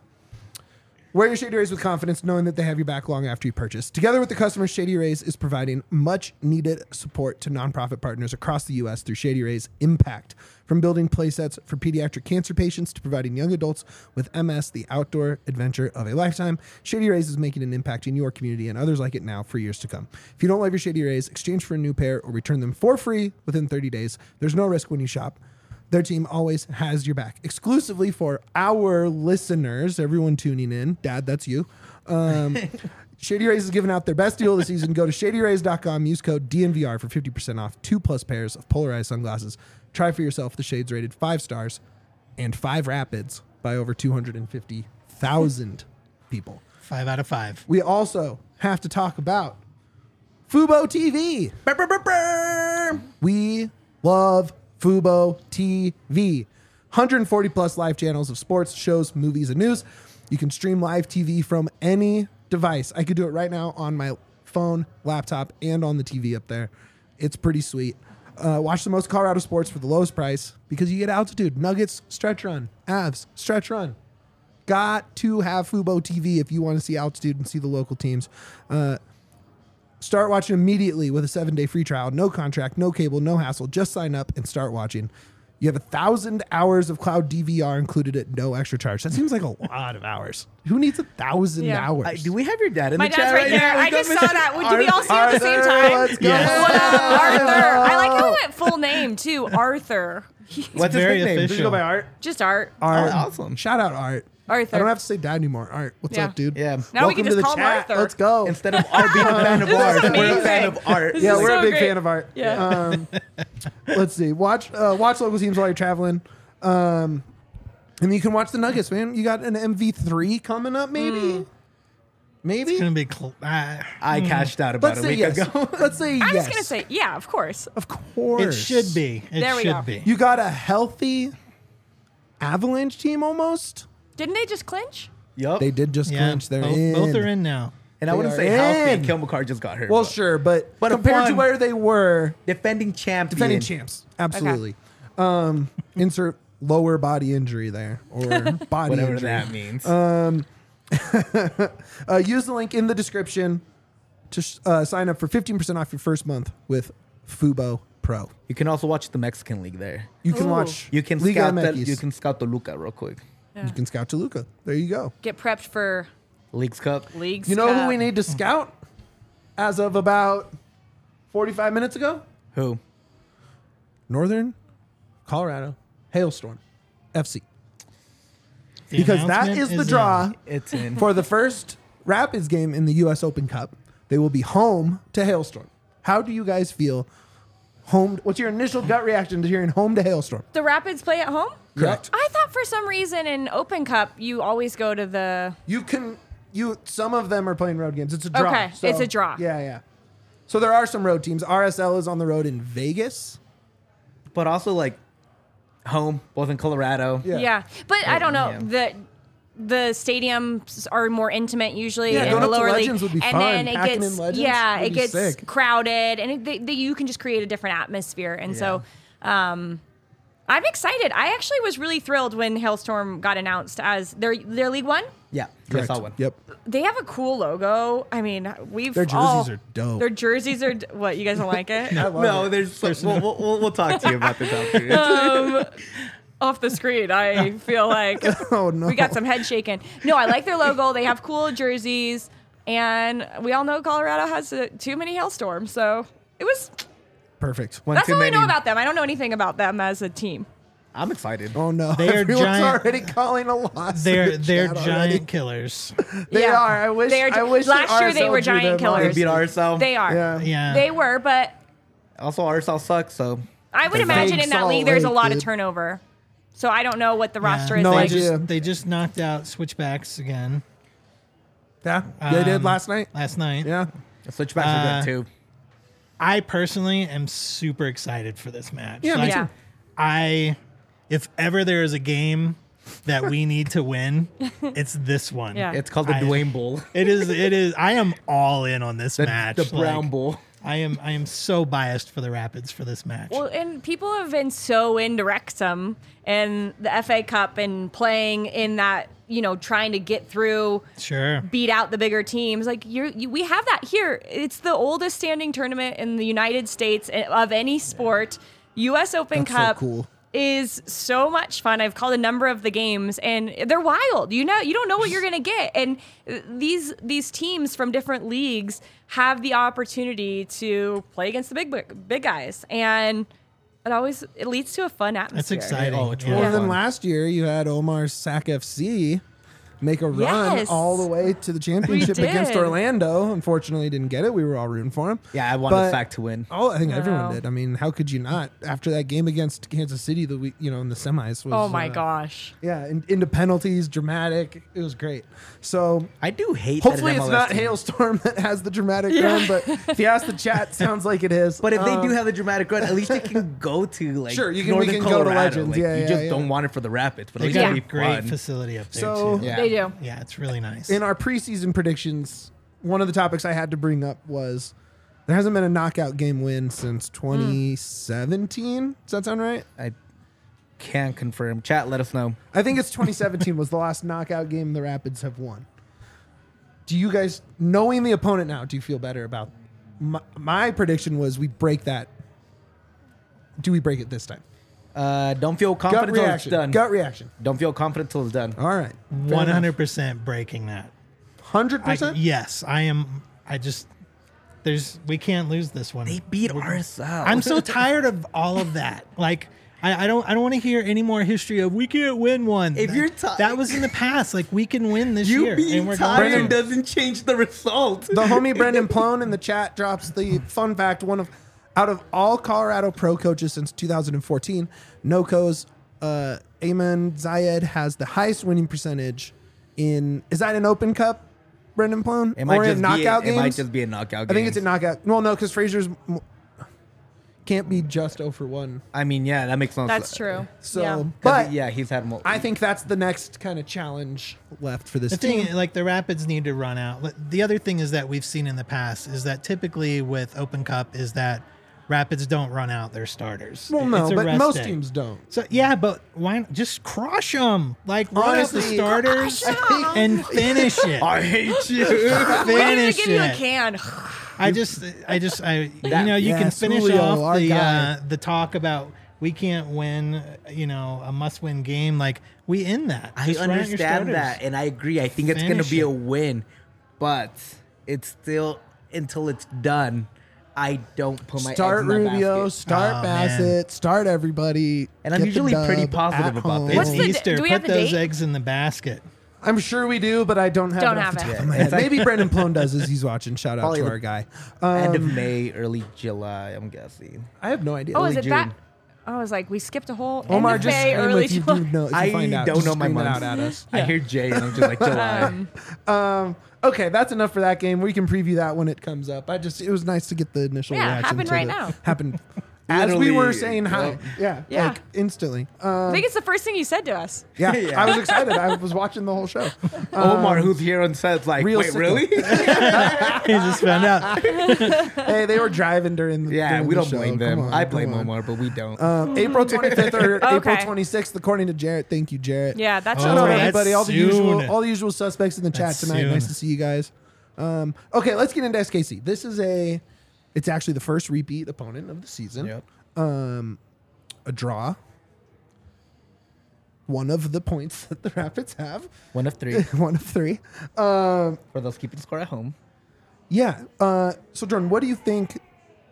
wear your Shady Rays with confidence, knowing that they have your back long after you purchase. Together with the customers, Shady Rays is providing much needed support to nonprofit partners across the U S through Shady Rays Impact. From building playsets for pediatric cancer patients to providing young adults with M S the outdoor adventure of a lifetime, Shady Rays is making an impact in your community and others like it now for years to come. If you don't love your Shady Rays, exchange for a new pair or return them for free within thirty days. There's no risk when you shop. Their team always has your back. Exclusively for our listeners, everyone tuning in, Dad, that's you. Um, Shady Rays is giving out their best deal of the season. Go to shady rays dot com, use code D N V R for fifty percent off two plus pairs of polarized sunglasses. Try for yourself the shades rated five stars and five rapids by over two hundred fifty thousand people. Five out of five. We also have to talk about Fubo T V. Brr, brr, brr, brr. We love Fubo T V. one hundred forty plus live channels of sports, shows, movies, and news. You can stream live T V from any device. I could do it right now on my phone, laptop, and on the T V up there. It's pretty sweet. Uh, watch the most Colorado sports for the lowest price because you get altitude. Nuggets, stretch run. Avs, stretch run. Got to have Fubo T V if you want to see altitude and see the local teams. Uh, Start watching immediately with a seven-day free trial. No contract, no cable, no hassle. Just sign up and start watching. You have a thousand hours of cloud D V R included at no extra charge. That seems like a lot of hours. Who needs a thousand Yeah. hours? Uh, do we have your dad in My the dad's chat right right there. now? I just saw that. Would- Do we all see it at the same Arthur, time? let's go. Yes. What up, Arthur? I like how it went full name too. Arthur. What's his very nickname? official. Did you go by Art? Just Art. Art. Oh, awesome. Shout out Art. Arthur. I don't have to say dad anymore. Art, what's Yeah. up, dude? Yeah. Now we Welcome can to just the call him chat. Arthur. Let's go. Instead of Art being a fan of ours, we're a amazing. fan of art. This Yeah, is we're so a big great. fan of Art. Yeah. Um, let's see. Watch uh, watch local teams while you're traveling. Um, and you can watch the Nuggets, man. You got an M V three coming up, maybe? Maybe? It's gonna be. Cl- uh, I cashed out about Let's a say week yes. ago. Let's say I yes. was gonna say, yeah, of course. Of course. it should be. It There we should go. be. You got a healthy Avalanche team almost? Didn't they just clinch? Yup. They did just yeah, clinch. They're both, in. both are in now. And I They wouldn't are say healthy. in. Kel McCarr just got hurt. Well, but sure, but, But a compared to fun- where they were, defending champion. defending champs. Absolutely. Um, insert lower body injury there or body Whatever injury. that means. Uh, use the link in the description to sh- uh, sign up for fifteen percent off your first month with Fubo Pro. you can also watch the Mexican League there. You can Ooh. watch. You can Liga scout M that. X. You can scout the Luca real quick. You can scout Toluca. There you go. Get prepped for Leagues Cup. leagues. You know who Cup. we need to scout as of about forty-five minutes ago? Who? Northern Colorado Hailstorm F C. The because that announcement is the is draw in. It's in. for the first Rapids game in the U S Open Cup. They will be home to Hailstorm. How do you guys feel? Home. What's your initial gut reaction to hearing home to Hailstorm? The Rapids play at home? Correct. I thought for some reason in Open Cup you always go to the You can. You. Some of them are playing road games. It's a draw. Okay, so- it's a draw. Yeah, yeah. So there are some road teams. R S L is on the road in Vegas. But also like home, both in Colorado. Yeah. yeah. But I don't know Yeah. the the stadiums are more intimate usually Yeah, in going the up to lower Legends league, would be and fun. then it Packing gets in Legends yeah, would it be gets sick. crowded, and it, they, they, you can just create a different atmosphere, and so. Um, I'm excited. I actually was really thrilled when Hailstorm got announced as their their League One. Yeah. Correct. I saw one. Yep. They have a cool logo. I mean, we've Their jerseys all- are dope. Their jerseys are d- what? You guys don't like it? I love No, it. there's, we'll, we'll, we'll, we'll talk to you about this after. um, off the screen. I feel like Oh no. we got some head shaking. No, I like their logo. They have cool jerseys, and we all know Colorado has uh, too many hailstorms. So it was. Perfect. One That's too all I many. know about them. I don't know anything about them as a team. I'm excited. Oh no. They are Everyone's giant- already calling a loss. They're in the they're chat giant already. killers. They Yeah. are. I wish. They are- I wish that last year they R S L were drew giant them, killers. They honestly. beat R S L. They are. Yeah. Yeah. They were, but Also, R S L sucks, so I would They're imagine big in that Salt league there's a Lake, lot dude. of turnover. So I don't know what the roster is No they like. idea. just, they just knocked out Switchbacks again Yeah. They did Um, last night. last night. Yeah. the switchbacks Uh, are good too. I personally am super excited for this match. Yeah, me Like, Yeah. I, if ever there is a game that we need to win, it's this one. Yeah. It's called the I- Dwayne Bowl. It is. It is. I am all in on this The, match. the Brown Like, Bowl. I am. I am so biased for the Rapids for this match. Well, and people have been so into Wrexham and the F A Cup and playing in that, you know, trying to get through, Sure. beat out the bigger teams. Like you're, you, we have that here. It's the oldest standing tournament in the United States of any sport. U S Open That's so Cup cool. is so much fun. I've called a number of the games, and they're wild. You know, you don't know what you're gonna get, and these these teams from different leagues have the opportunity to play against the big big guys, and it always it leads to a fun That's atmosphere. exciting. Oh, it's Yeah. really Well, then fun. last year you had Omar's Sac F C make a run Yes. all the way to the championship We against did. Orlando. Unfortunately, didn't get it. We were all rooting for him. Yeah, I wanted But- Sac to win. Oh, I think everyone Wow. did. I mean, how could you not? After that game against Kansas City, the week, you know, in the semis was. Oh my uh, gosh! Yeah, in, into penalties, dramatic. It was great. So I do hate. hopefully that it's an M L S not team. Hailstorm that has the dramatic run, but if you ask the chat, sounds like it is. But if they Um, do have the dramatic run, at least they can go to like Sure, you can- we Northern can go to Colorado. Legends. Like, Yeah, you yeah, just yeah. don't want it for the Rapids, but at They least got it'll a be great fun. facility up there So- too. Yeah. They do. Yeah, it's really nice. in our preseason predictions, one of the topics I had to bring up was there hasn't been a knockout game win since twenty seventeen. Does that sound right? I can't confirm. Chat, let us know. I think it's twenty seventeen was the last knockout game the Rapids have won. Do you guys, knowing the opponent now, do you feel better about? My, my prediction was we break that. Do we break it this time? Uh, don't feel Gut confident until it's reaction. done. Gut reaction. Don't feel confident until it's done. All right. One hundred percent breaking that. Hundred I, percent. yes, I am. I just there's we can't lose this one. They beat R S L. I'm so tired of all of that. Like I, I don't I don't want to hear any more history of we can't win one. If that, you're ti- that was in the past. Like we can win this You year, being and we're tired going to. doesn't change the result. The homie Brendan Plone in the chat drops the fun fact: one of out of all Colorado pro coaches since two thousand fourteen, NoCo's uh, Ayman Zayed has the highest winning percentage in. Is that an Open Cup, Brendan Plone, It might or just in knockout be, games? It might just be a knockout game. I think it's a knockout. Well, no, because Fraser's m- can't be just zero for one. I mean, yeah, that makes no sense. That's true. So, yeah. but yeah, he's had more. I think that's the next kind of challenge left for this The team. thing, like the Rapids need to run out. Like, the other thing is that we've seen in the past is that typically with Open Cup is that Rapids don't run out their starters. well, no, It's a but rest most day. teams don't. So yeah, but why not just crush them? Like run Honestly, out the starters Crush 'em. and finish it. I hate you. We're gonna finish give you a it. can. I just, I just, I, you That- know, you can yes, finish Julio, off our the guy. uh, the talk about we can't win, you know, a must-win game. Like we end that. I Just run out your understand starters. that, and I agree. I think it's going to Finish be it. a win, but it's still until it's done. I don't put my Start eggs in that Rubio, basket. start Oh, Bassett, man. start everybody. And I'm get the usually pretty dub positive at about home. this. What's It's the- Easter. do we Put have the those date? eggs in the basket. I'm sure we do, but I don't have Don't it have off the it. top of my Yeah, head. it's like- Maybe Brandon Plone does as he's watching. Shout out Probably to the- our guy. End of Um, May, early July, I'm guessing. I have no idea. Oh, Early is it June. that? I was like, we skipped a whole Omar, end of just May, scream early if you July. do know. If you I find out, don't just know my scream it months. out at us. I hear Jay and I'm just like July. Um, Um, okay, that's enough for that game. We can preview that when it comes up. I just it was nice to get the initial Yeah, reaction. happened to right the- now. Happened as we Literally, were saying hi. yep. Yeah, Yeah. like instantly. I Um, think it's the first thing you said to us. yeah, Yeah. I was excited. I was watching the whole show. Omar, Um, who's here on set, like, real wait, sicko. really? He just found out. Hey, they were driving during the yeah, during we the don't show. blame Come them. on, I come blame on. Omar, but we don't. Um, April twenty-fifth or April Okay. twenty-sixth, according to Jarrett. Thank you, Jarrett. Yeah, that's Oh, Shout out okay. that's everybody, all the soon. usual, all the usual suspects in the chat That's tonight. soon. Nice to see you guys. Um, okay, let's get into S K C. This is a, it's actually the first repeat opponent of the season. Yep. Um, a draw. One of the points that the Rapids have. One of three One of three. Um, for those keeping score at home. yeah. Uh, so Jordan, what do you think?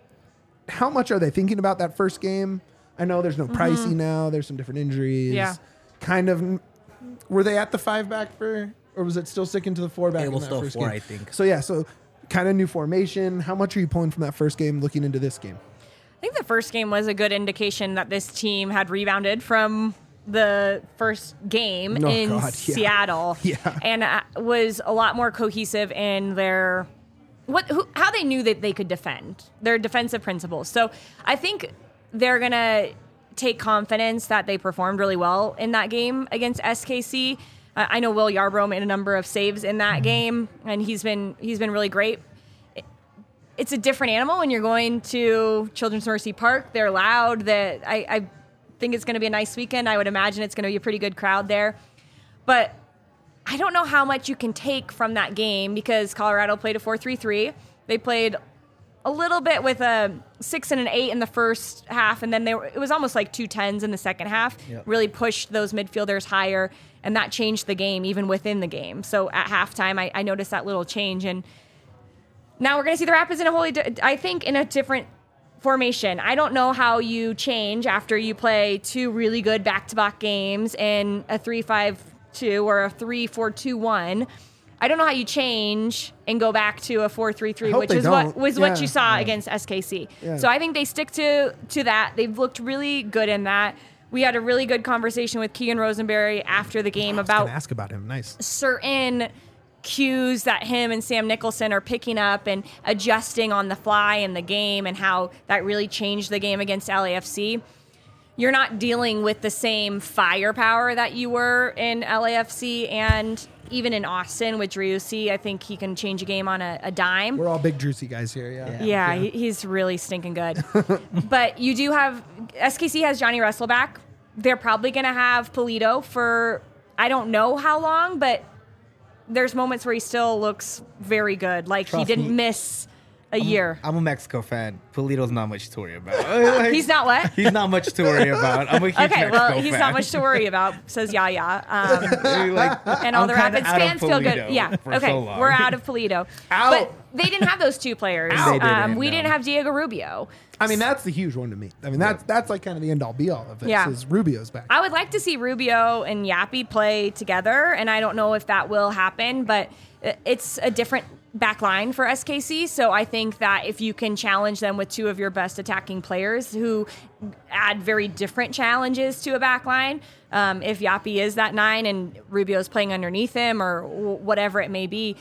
How much are they thinking about that first game? I know there's no Pricey now. There's some different injuries. Yeah. Kind of. Were they at the five back for, or was it still sticking to the four back? It in was that still first four, game? I think. So yeah. So kind of new formation. How much are you pulling from that first game looking into this game? I think the first game was a good indication that this team had rebounded from the first game Oh, in God, yeah. Seattle, Yeah. and uh, was a lot more cohesive in their what who, how they knew that they could defend their defensive principles. So I think they're gonna take confidence that they performed really well in that game against S K C. Uh, I know Will Yarbrough made a number of saves in that game, and he's been he's been really great. It's a different animal when you're going to Children's Mercy Park. They're loud. That I, I think it's going to be a nice weekend. I would imagine it's going to be a pretty good crowd there. But I don't know how much you can take from that game because Colorado played a four three three. They played a little bit with a six and an eight in the first half, and then they were, it was almost like two tens in the second half. Yep. Really pushed those midfielders higher, and that changed the game even within the game. So at halftime, I, I noticed that little change, and now we're going to see the Rapids in a wholly, di- I think, in a different formation. I don't know how you change after you play two really good back-to-back games in a three five two or a three four two one. I don't know how you change and go back to a four three three, hope which they is what don't. was what Yeah. you saw against S K C. Yeah. So I think they stick to to that. They've looked really good in that. We had a really good conversation with Keegan Rosenberry after the game I was gonna about ask about him. Nice. certain cues that him and Sam Nicholson are picking up and adjusting on the fly in the game, and how that really changed the game against L A F C. You're not dealing with the same firepower that you were in L A F C and even in Austin with Driussi. I think he can change a game on a, a dime. We're all big Juicy guys here. Yeah. Yeah, he- he's really stinking good. But you do have S K C has Johnny Russell back. They're probably going to have Polito for I don't know how long, but there's moments where he still looks very good. Like Trust he didn't me. miss a year. I'm a Mexico fan. Polito's not much to worry about. Like, He's not what? He's not much to worry about. I'm a huge Okay, Mexico well, he's fan. not much to worry about, says Yaya. Um, Like, and all I'm the kinda Rapids out of fans feel good. Polito Yeah. for Okay. so long. We're out of Polito. Out. But they didn't have those two players. Out. They Um, didn't, we no. didn't have Diego Rubio. I mean, that's the huge one to me. I mean, that's that's like kind of the end all be all of it. Yeah. Is Rubio's back. I would like to see Rubio and Yappy play together, and I don't know if that will happen, but it's a different back line for S K C. So I think that if you can challenge them with two of your best attacking players who add very different challenges to a back line, um, if Yappy is that nine and Rubio's playing underneath him or w- whatever it may be,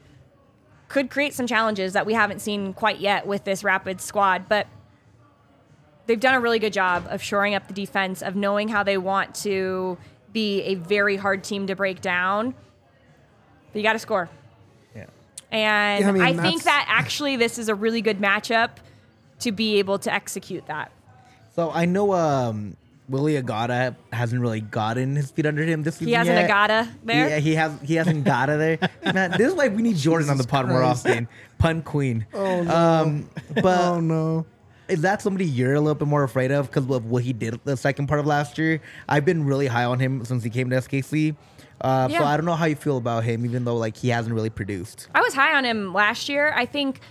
could create some challenges that we haven't seen quite yet with this Rapids squad. But they've done a really good job of shoring up the defense, of knowing how they want to be a very hard team to break down. But you got to score. Yeah. And Yeah, I mean, I, that's- think that actually this is a really good matchup to be able to execute that. So I know um, Willie Agata hasn't really gotten his feet under him this season He has an yet. Agata there. Yeah, he has. He hasn't got it there. Man, this is why we need Jordan on the pod more Christ. often. Pun queen. Oh, no. Um, but oh no. is that somebody you're a little bit more afraid of because of what he did the second part of last year? I've been really high on him since he came to S K C. Uh, So Yeah. I don't know how you feel about him, even though like he hasn't really produced. I was high on him last year. I think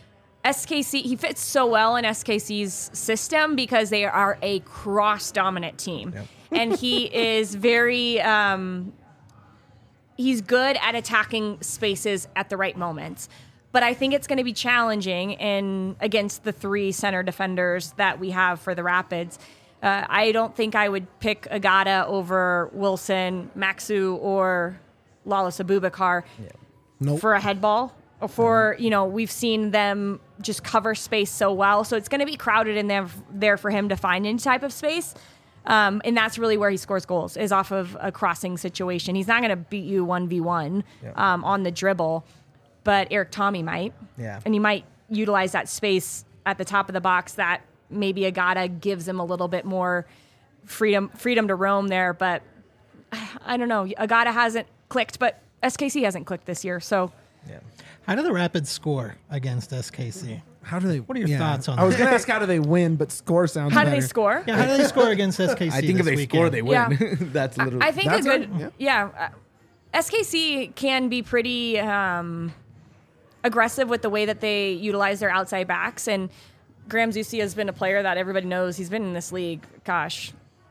S K C, he fits so well in S K C's system because they are a cross-dominant team. Yep. And he is very, um, he's good at attacking spaces at the right moments. But I think it's going to be challenging in against the three center defenders that we have for the Rapids. Uh, I don't think I would pick Agata over Wilson, Maxu, or Lawless Abubakar Yeah. Nope. for a head ball. Or for, you know, we've seen them just cover space so well. So it's going to be crowded in there, there for him to find any type of space. Um, and that's really where he scores goals, is off of a crossing situation. He's not going to beat you one v one Yeah. um, on the dribble, but Eric Tommy might. Yeah. And he might utilize that space at the top of the box that maybe Agata gives him a little bit more freedom freedom to roam there. But I don't know. Agata hasn't clicked, but S K C hasn't clicked this year. So Yeah. How do the Rapids score against S K C? How do they? What are your yeah. thoughts on I was that? going to ask how do they win, but score sounds how do better. they score? Yeah, how do they score against S K C? I think if this they weekend? score, they win. Yeah. That's literally. I think That's a good, good, yeah. uh, S K C can be pretty um, aggressive with the way that they utilize their outside backs. And Graham Zusi has been a player that everybody knows. He's been in this league, gosh,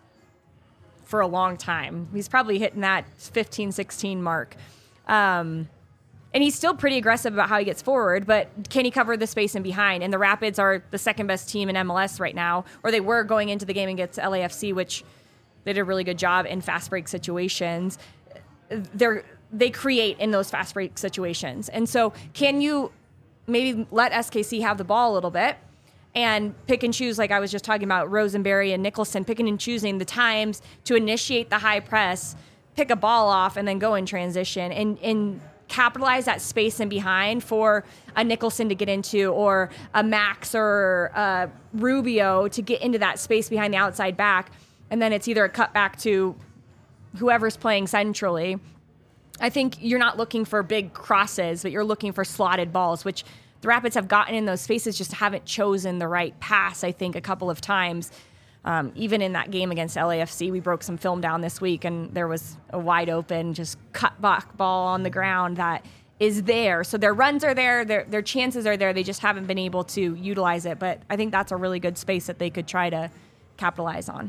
for a long time. He's probably hitting that fifteen, sixteen mark. Um, and he's still pretty aggressive about how he gets forward, but can he cover the space in behind? And the Rapids are the second best team in M L S right now, or they were going into the game against L A F C, which they did a really good job in fast break situations. They're, they create in those fast break situations. And so can you maybe let S K C have the ball a little bit and pick and choose, like I was just talking about Rosenberry and Nicholson, picking and choosing the times to initiate the high press, pick a ball off, and then go in transition and, and capitalize that space in behind for a Nicholson to get into, or a Max or a Rubio to get into that space behind the outside back. And then it's either a cut back to whoever's playing centrally. I think you're not looking for big crosses, but you're looking for slotted balls, which the Rapids have gotten in those spaces, just haven't chosen the right pass, I think, a couple of times. Um, even in that game against L A F C, we broke some film down this week, and there was a wide open, just cut back ball on the ground that is there. So their runs are there, their their chances are there. They just haven't been able to utilize it. But I think that's a really good space that they could try to capitalize on.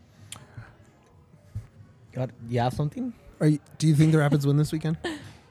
Got, you have something? Are you, do you think the Rapids win this weekend?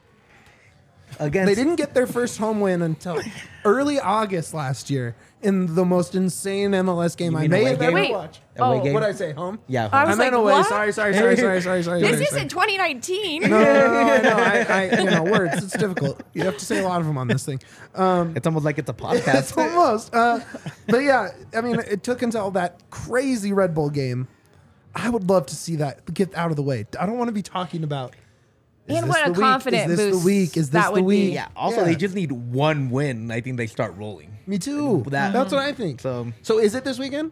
Against They didn't get their first home win until early August last year in the most insane M L S game You I mean may away have game? ever Wait. watched. Away Oh, game? What did I say? Home? Yeah. I I, was meant like, away. what? Sorry, sorry, sorry, sorry, sorry, sorry. This sorry, sorry. isn't twenty nineteen. No, no, no, I know. I, I, you know, words. It's difficult. You have to say a lot of them on this thing. Um, It's almost like it's a It's podcast. almost. Uh, but yeah, I mean, it took until that crazy Red Bull game. I would love to see that get out of the way. I don't want to be talking about. Is And this what a the week? confident Is this boost the week? Is this that the would be. week? Yeah. Also, they just need one win. I think they start rolling. Me too. That- That's what I think. So- so is it this weekend?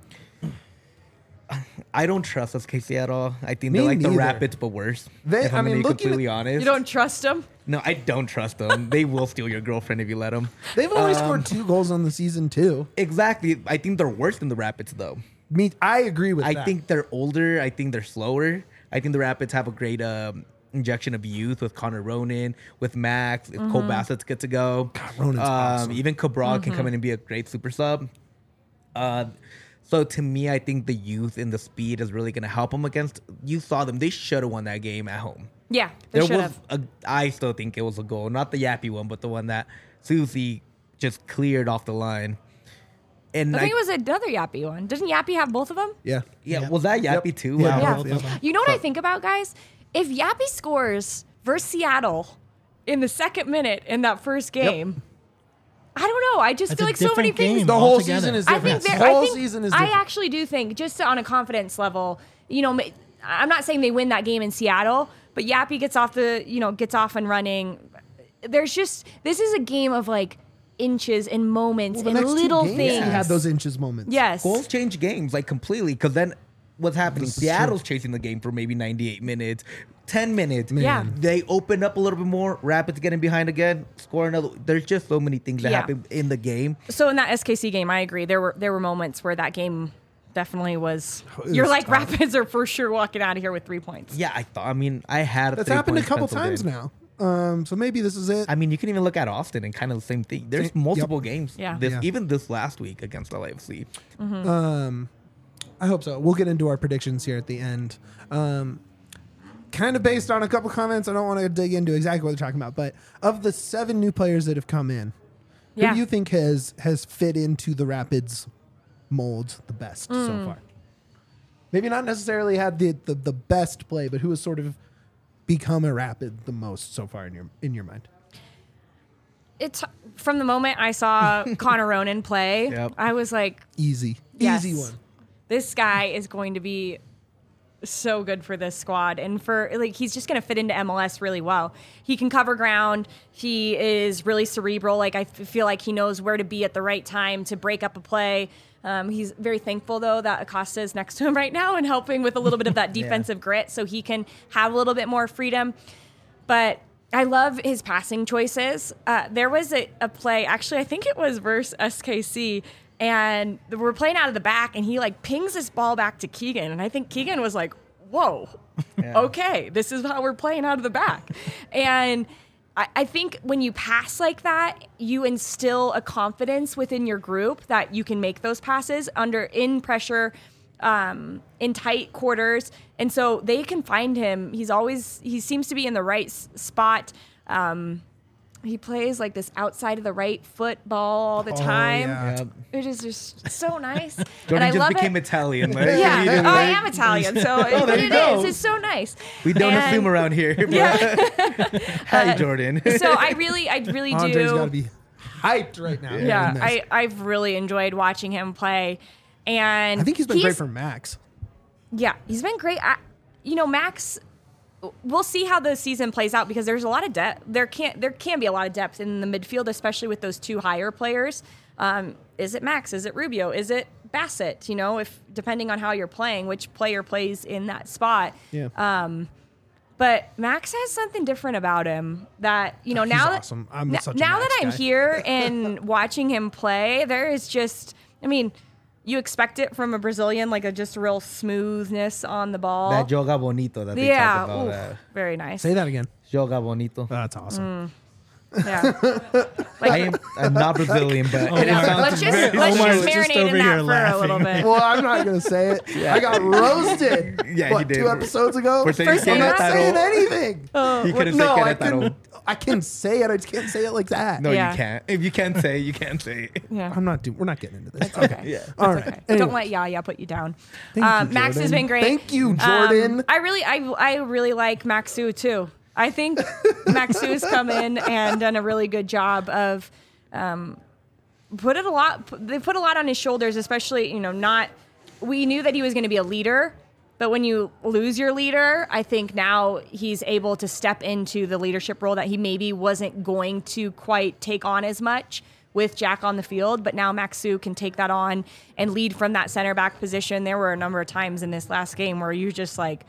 I don't trust S K C at all. I think Me they're like the neither. Rapids, but worse. They- if I I'm mean, gonna be looking completely at- honest. You don't trust them? No, I don't trust them. They will steal your girlfriend if you let them. They've only Um, scored two goals on the season too. Exactly. I think they're worse than the Rapids, though. Me, I agree with I that. think they're older. I think they're slower. I think the Rapids have a great um, injection of youth with Connor Ronan, with Max. If Cole Bassett's good to go, Ronan's um, awesome. even Cabral can come in and be a great super sub. Uh, so to me, I think the youth and the speed is really going to help them against. You saw them; they should have won that game at home. Yeah, they There should was, have. a, I still think it was a goal, not the Yappy one, but the one that Susie just cleared off the line. And I think it was another Yappy one. Didn't Yappy have both of them? yeah. yeah, Yep. was that Yappy Yep. too? Yeah. Wow. Yeah. both of them. You know what I think about, guys? If Yappy scores versus Seattle in the second minute in that first game, I don't know. I just That's feel a like so many different things. game The whole altogether. season is I different. think The they're- I whole think season is I different. actually do think, just on a confidence level, you know, ma- I'm not saying they win that game in Seattle, but Yappy gets off the, you know, gets off and running. There's just this is a game of like inches and moments Well, the and next two little games, things. you had those inches moments. Yes. Goals change games like completely because then what's happening? This is Seattle's chasing the game for maybe ninety-eight minutes, ten minutes. Yeah. They open up a little bit more. Rapids getting behind again, score another. There's just so many things that Yeah. happen in the game. So in that S K C game, I agree. There were there were moments where that game definitely was. It You're was like tough. Rapids are for sure walking out of here with three points. Yeah, I thought. I mean, I had. That's three happened a points couple penciled times in. now. Um, so maybe this is it. I mean, you can even look at Austin and kind of the same thing. There's Yep. multiple games. Yeah. This, Yeah. Even this last week against L A F C. Um, I hope so. We'll get into our predictions here at the end. Um, kind of based on a couple comments. I don't want to dig into exactly what they're talking about, but of the seven new players that have come in, who Yeah. do you think has has fit into the Rapids mold the best Mm. so far? Maybe not necessarily had the, the the best play, but who has sort of become a Rapid the most so far in your in your mind? It's from the moment I saw Connor Ronan play, Yep. I was like, Easy, Yes. easy one. this guy is going to be so good for this squad, and for like he's just going to fit into M L S really well. He can cover ground. He is really cerebral. Like I f- feel like he knows where to be at the right time to break up a play. Um, he's very thankful though that Acosta is next to him right now and helping with a little bit of that defensive grit, so he can have a little bit more freedom. But I love his passing choices. Uh, there was a, a play, actually, I think it was versus S K C, and we're playing out of the back, and he like pings this ball back to Keegan, and I think Keegan was like, "Whoa, Yeah. okay, this is how we're playing out of the back," and. I, I think when you pass like that, you instill a confidence within your group that you can make those passes under in pressure, um, in tight quarters, and so they can find him. He's always he seems to be in the right s- spot. Um, he plays like this outside of the right foot ball all the Oh, time. yeah. Yep. It is just so nice. and Jordan I just love became it. Italian. Like, Yeah, he didn't oh, I like- am Italian, so it, there but you it go. is. It's so nice. We don't And- assume around here. But Yeah. Hi, Jordan. So I really, I really Andre's do. got to be hyped right now. Yeah, in this. I, I've really enjoyed watching him play, and I think he's been great for Max. Yeah, he's been great. I, you know, Max. We'll see how the season plays out because there's a lot of depth. There can there can be a lot of depth in the midfield, especially with those two higher players. Um, is it Max? Is it Rubio? Is it Bassett? You know, if depending on how you're playing, which player plays in that spot. Yeah. Um, but Max has something different about him that you know He's now awesome. I'm that such a now Max that I'm guy. here and watching him play, there is just I mean, you expect it from a Brazilian, like a just real smoothness on the ball. That joga bonito that they yeah, talk about. oof, That. very nice. Say that again. Joga bonito. Oh, that's awesome. Yeah. Like, I am I'm not Brillian, but Oh, it wow. sounds let's just very let's Omar's just just marinate over in here that for a little laughing. bit. Well, I'm not gonna say it. I got roasted. Yeah, what, he did. two episodes ago. For saying First I'm not Querétaro. saying anything. He couldn't say no, I Querétaro. can. I can say it. I just can't say it like that. No, Yeah. you can't. If you can't say, it, you can't say. it. Yeah. I'm not doing. We're not getting into this. It's okay. Yeah. All It's right. okay. Anyway. Don't let Yaya put you down. Thank um, you, Max has Jordan. been great. Thank you, Um, Jordan. I really, I, I really like Maxu too. I think Maxu has come in and done a really good job of um, put it a lot. They put a lot on his shoulders, especially you know not. We knew that he was going to be a leader. But when you lose your leader, I think now he's able to step into the leadership role that he maybe wasn't going to quite take on as much with Jack on the field. But now Maxu can take that on and lead from that center back position. There were a number of times in this last game where you just like,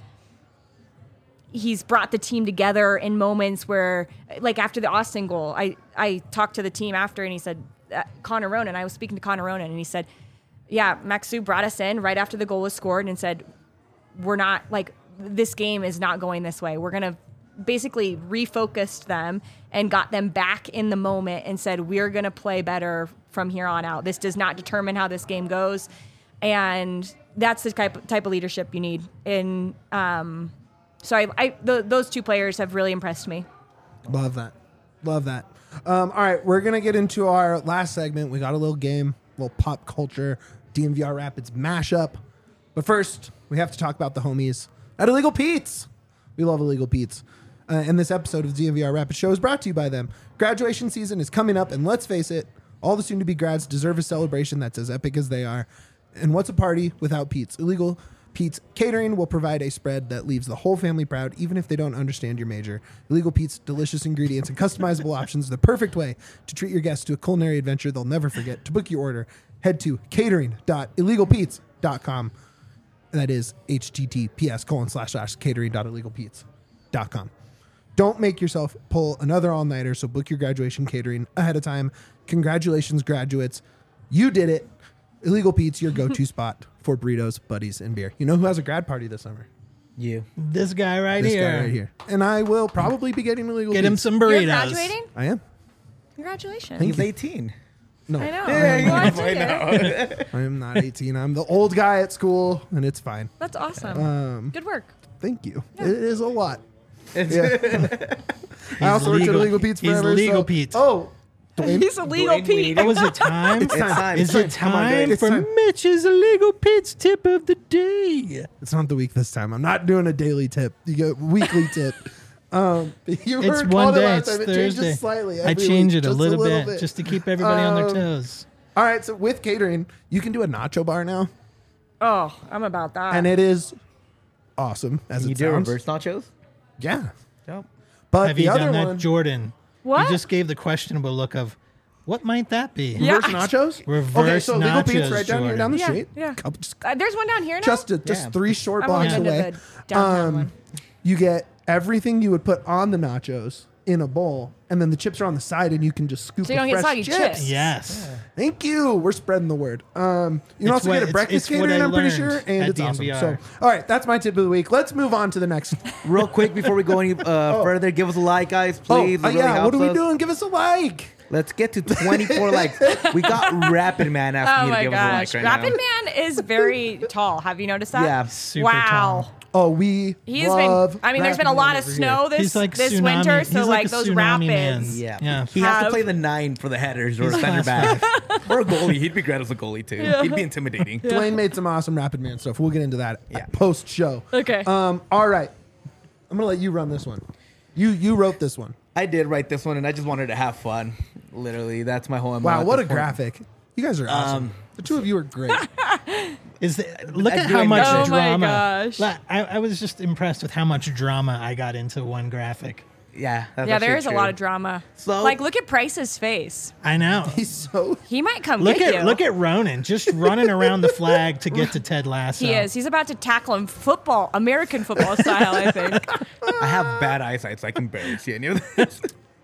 he's brought the team together in moments where, like after the Austin goal, I, I talked to the team after and he said, uh, Connor Ronan, I was speaking to Connor Ronan and he said, yeah, Maxu brought us in right after the goal was scored and said, we're not like this game is not going this way. We're going to basically refocused them and got them back in the moment and said, we're going to play better from here on out. This does not determine how this game goes. And that's the type, type of leadership you need. And um, so I, I th- those two players have really impressed me. Love that. Love that. Um, all right, we're gonna get into our last segment. We got a little game, a little pop culture D M V R Rapids mashup. But first, we have to talk about the homies at Illegal Pete's. We love Illegal Pete's. Uh, and this episode of the D M V R Rapids Show is brought to you by them. Graduation season is coming up, and let's face it, all the soon-to-be grads deserve a celebration that's as epic as they are. And what's a party without Pete's? Illegal Pete's Catering will provide a spread that leaves the whole family proud, even if they don't understand your major. Illegal Pete's delicious ingredients and customizable options, the perfect way to treat your guests to a culinary adventure they'll never forget. To book your order, head to catering dot illegal pete's dot com. That is https colon slash slash catering dot illegal pete's dot com. Don't make yourself pull another all-nighter, so book your graduation catering ahead of time. Congratulations, graduates. You did it. Illegal Pete's, your go-to spot for burritos, buddies, and beer. You know who has a grad party this summer? You. This guy right This here. guy right here. And I will probably be getting illegal. Get him Pete's. some You're burritos. graduating? I am. Congratulations. He's eighteen. No, I know. Yeah, Well, I I figured. I am not eighteen. I'm the old guy at school, and it's fine. That's awesome. Um, Good work. Thank you. It is a lot. It's- Yeah. I also worked at legal. Illegal Pete's He's forever. legal so- Pete. Oh, Dwayne. He's a legal Dwayne Pete. Wade. Oh, is it time? It's time. Is it Come on, time Dwayne. It's for time. Mitch's illegal Pete's tip of the day? It's not the week this time. I'm not doing a daily tip. You get weekly tip. Um, you It's heard one called it day. last It's time. It Thursday. changes slightly. I every change week, it a just little, bit, just to keep everybody on their Um, toes. All right. So with catering, you can do a nacho bar now, Oh, I'm about that. and it is awesome as you it do sounds. reverse nachos? Yeah, Nope. but Have the you other done that, one, Jordan? What? You just gave the questionable look of, what might that be? Yeah. reverse nachos. Reverse okay, so Legal Pete's nachos, right down here down the Yeah, street. yeah. Couple- just Uh, there's one down here now. just, a, just Yeah. three short I've only blocks been to away. the downtown Um, one. You get everything you would put on the nachos in a bowl, and then the chips are on the side, and you can just scoop So you the don't get fresh soggy chips. chips. Yes. Thank you. We're spreading the word. Um, you can It's also what- get a it's- breakfast it's what catering, I I'm pretty learned sure, and at it's awesome. D N V R. So, all right, that's my tip of the week. Let's move on to the next. Real quick before we go any uh, further, give us a like, guys, please. oh, uh, It really yeah. What helps are we us. doing? Give us a like. Let's get to twenty-four likes. We got Rapid Man asking Oh you to my give gosh. us a like right Rapid now. Man is very tall. Have you noticed that? Yeah. Super wow. tall. Oh, we He has love been. I mean, there's been a Rapid lot Man of over snow here. this He's like this tsunami. winter, He's so like like a those tsunami man. rapids. Yeah. Yeah. He has to Have- play the nine for the headers or He's center class back. Or a goalie. He'd be great as a goalie, too. He'd be intimidating. Dwayne made some awesome Rapid Man stuff. We'll get into that Yeah. post show. Okay. Um. All right. I'm gonna let you run this one. You you wrote this one. I did write this one, and I just wanted to have fun. Literally, that's my whole M O Wow, at what a this point. graphic! You guys are awesome. Um, the two of you are great. Is the, look I at do how much enjoy it. Oh my drama. gosh. Like, I, I was just impressed with how much drama I got into one graphic. Yeah, that's yeah, there actually is a true. lot of drama. So- like, look at Price's face. I know. He's so. He might come Look get at you. look at Ronan just running around the flag to get to Ted Lasso. He is. He's about to tackle him football, American football style. I think. I have bad eyesight, so I can barely see any of this.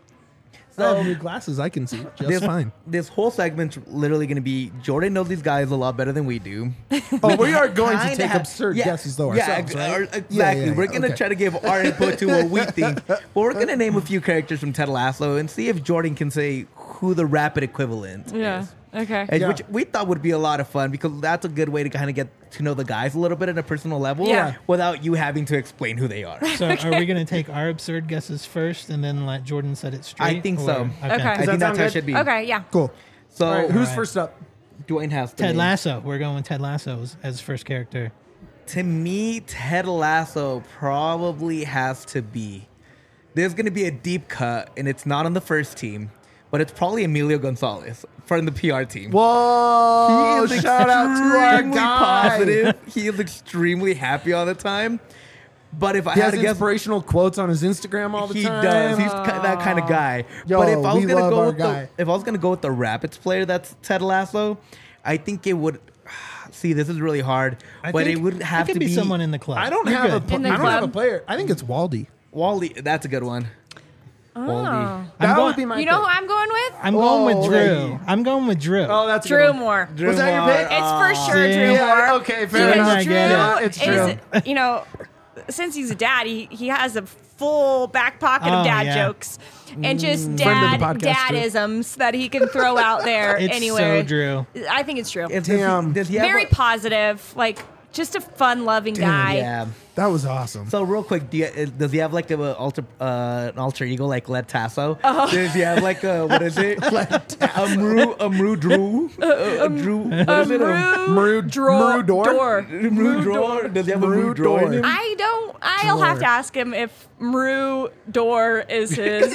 I have new glasses. I can see just this, fine. This whole segment's literally going to be Jordan knows these guys a lot better than we do. Oh, we are going to Kinda take have- absurd yeah, guesses though yeah, ourselves, ex- right? or- Yeah, exactly. yeah, We're yeah, gonna okay. try to give our input to what we think, but we're gonna name a few characters from Ted Lasso and see if Jordan can say who the Rapid equivalent Yeah. is. Okay. And Yeah. Which we thought would be a lot of fun because that's a good way to kind of get to know the guys a little bit at a personal level Yeah. without you having to explain who they are. So are we going to take our absurd guesses first and then let Jordan set it straight? I think or- so. Okay. I Does that think that's sound how it good? should be. Okay. Yeah. Cool. So All right, who's right. first up? Dwayne has to Ted be- Lasso. We're going with Ted Lasso as, as first character. To me, Ted Lasso probably has to be. There's going to be a deep cut, and it's not on the first team, but it's probably Emilio Gonzalez from the P R team. Whoa! He is Shout out to our extremely guy. positive. He is extremely happy all the time. But if I He had has to guess, inspirational quotes on his Instagram all the he time. does. He's ki- that kind of guy. Yo, but if I was we gonna love go our with guy. the, if I was gonna go with the Rapids player that's Ted Lasso, I think it would. See, this is really hard, I but think it would have it could to be, be someone in the club. I don't You're have a. good. pl- In the I don't have a club? player. I think it's Waldy. Wally. That's a good one. Wally. Oh. That going- would be my. You know who pick. I'm going with? I'm going with Oh, Drew. okay. I'm going with Drew. Oh, that's a good Drew one. Moore. Was that your pick? It's for sure See? Drew Yeah, Moore. okay, fair Because enough. I Drew get it. Yeah, it's is, you know, since he's a dad, he, he has a full back pocket Oh, of dad yeah. jokes and just Friend dad of the podcast, Drew. dadisms that he can throw out there It's anywhere. so Drew. I think it's Drew. If- Damn. Does he have Very a- positive, like just a fun-loving guy. Yeah. That was awesome. So real quick, do you, uh, does he have like a, alter, uh, an alter ego like Led Tasso? Does he have like a what is it? a Mru, a Mru Drew, a, a Drew. What is it? A Maru Dro- Maru Door? Door. Mru Door. Does he have a Mru Mru Door? in Door. him? I don't. I'll have to ask him if Mru Door is his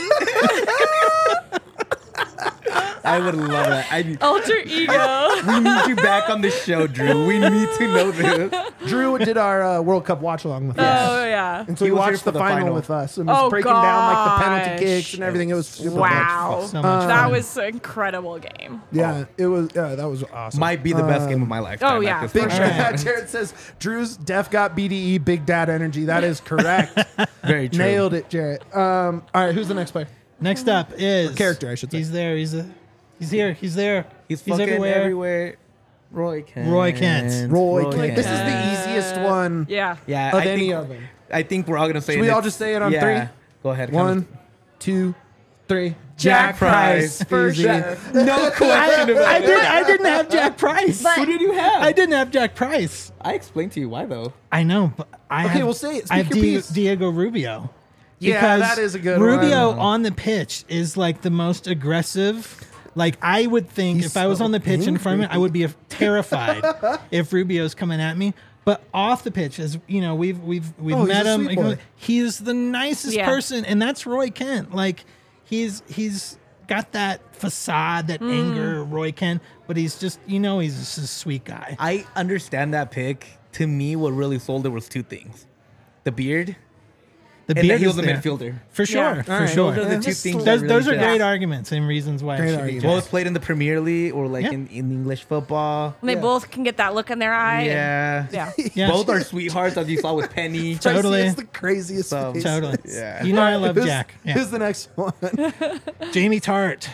I would love that. I, alter ego. we need you back on the show, Drew. We need to know this. Drew did our uh, World Cup watch along with us. Oh yeah. And so he, He was here watched for the, the final, final. with us and was Oh, breaking down like the penalty gosh. kicks and everything. It was super fun. Wow. So much that fun. was an incredible game. Yeah, it was. Yeah, that was awesome. Might be the best game of my life. oh, yeah, Big for sure. sure. Jared says Drew's def got B D E, big dad energy. That is correct. Very true. Nailed it, Jarrett. Um, all right, who's the next player? Next up is Character, I should say. He's there. He's a, He's here. He's there. He's, fucking everywhere. Roy Kent. Roy Kent. Roy, Kent. Kent. This is the easiest one Yeah. Yeah, of I any think, of them. I think we're all gonna say. Should we it. all just say it on yeah. three? Go ahead. One, count. two, three. Jack Price. For Easy. sure. No question about I it. did. I didn't have Jack Price. But- Who did you have? I didn't have Jack Price. I explained to you why though. I know, but I Okay, have, well, say it. I have Speak your Di- piece. Diego Rubio. Yeah, Because that is a good Rubio one. on the pitch is like the most aggressive. Like I would think He's if I was so on the pitch in front of me, angry. I would be terrified if Rubio's coming at me. But off the pitch, as you know, we've we've we've Oh, he's met a him. sweet boy. He's the nicest Yeah. person, and that's Roy Kent. Like he's he's got that facade, that anger, Roy Kent, but he's just you know he's just a sweet guy. I understand that pick. To me, what really sold it was two things: the beard The and that beard he is was a there. midfielder. For sure, Yeah. for All right. sure. Those are the Yeah. two things. Those, that really those are did. great Yeah. arguments and reasons why Great it should be arguments. Jack. Both played in the Premier League or like Yeah. in, in English football. And they Yeah. both can get that look in their eye. and- Yeah. Yeah. Yeah. Both are sweethearts, as you saw with Penny. Totally. It's the craziest So- face. Totally. Yeah. You know I love Who's- Jack. Yeah. Who's the next one? Jamie Tart.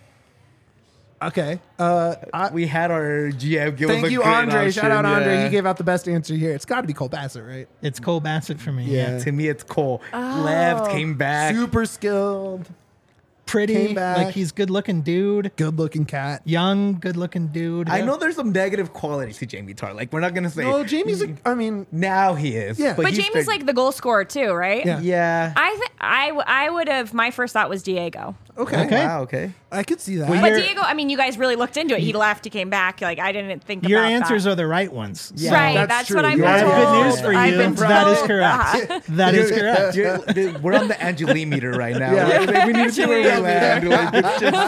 Okay. Uh, I, We had our G M give us thank a you, great Andre. Shout out, option, Andre. yeah. He gave out the best answer here. It's got to be Cole Bassett, right? It's Cole Bassett for me. Yeah. Yeah. To me, it's Cole. Oh. Left, came back. Super skilled, Pretty. Came back. Like he's good looking dude. good looking cat. Young, good looking dude. I know there's some negative qualities to Jamie Tart. Like, we're not going to say. No, Jamie's. A, I mean, Now he is. Yeah. But he's Jamie's the- like the goal scorer too, right? Yeah. Yeah. I th- I w- I would have. My first thought was Diego. okay. Okay. Wow, okay. I could see that. Well, But Your- Diego, I mean, you guys really looked into it. He left, he came back. Like I didn't think Your about answers that. are the right ones. Yeah. right. That's That's, true. what I'm You I told. have good news for I've you. been That is told. correct. Uh-huh. That is correct. You're- the- we're on the Angeli meter right now. Yeah. Like, we need to see where we land. Like, it's just,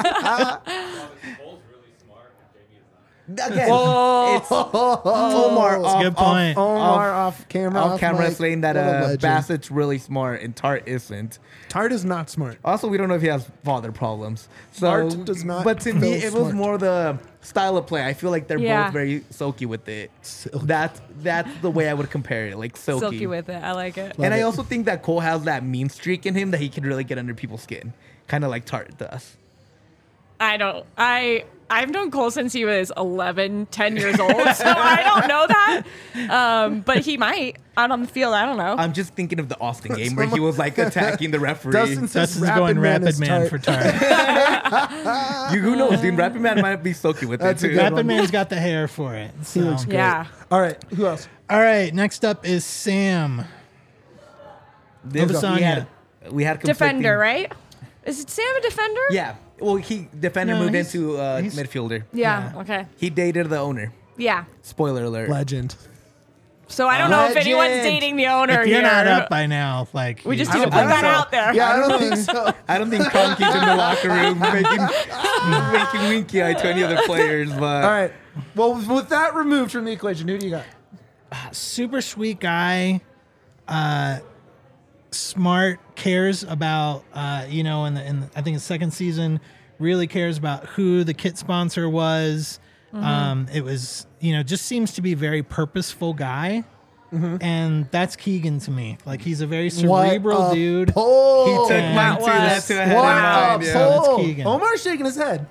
again, Oh, it's Omar That's off, a good point. Off, Omar off, off, camera. off camera mic. saying that What a uh, legend. Bassett's really smart and Tart isn't. Tart is not smart. Also, we don't know if he has father problems. So, Tart does not But to me, feel it was smart. more the style of play. I feel like they're Yeah. both very silky with it. Silky. That's that's the way I would compare it, like silky. Silky with it. I like it. Love and I it. also think that Cole has that mean streak in him that he can really get under people's skin, kind of like Tart does. I don't. I I've known Cole since he was eleven, ten years old, so I don't know that. Um, but he might out on the field. I don't know. I'm just thinking of the Austin game where he was like attacking the referee. Dustin says Dustin's going Man Rapid is Man Tart. for Tart. You, who knows, dude? Rapid Man might be silky with That's a it too. good Rapid one. Man's got the hair for it. So. He looks great. Yeah. All right. Who else? All right. Next up is Sam. This- we Lasagna. had, we had conflicting- Defender, right? Is it Sam a defender? Yeah. Well, he defender No, moved he's- into uh, he's- midfielder. Yeah. Yeah. Okay. He dated the owner. Yeah. Spoiler alert. Legend. So I don't know if anyone's Legend. dating the owner If you're here. not up by now, like we just you- need to I put don't that think so. out there. Yeah, I don't think so. I don't think Conky's in the locker room making making winky eye to any other players, but All right. Well, with that removed from the equation, who do you got? super sweet guy, uh, smart, cares about uh, you know, in the in the, I think the second season, really cares about who the kit sponsor was. Mm-hmm. Um, it was you know just seems to be a very purposeful guy, and that's Keegan to me. Like he's a very cerebral What a dude. Pull. he took Yeah. mine That too. That's was- who I had What in a mind. Yeah. That's pull. Keegan. Omar's shaking his head.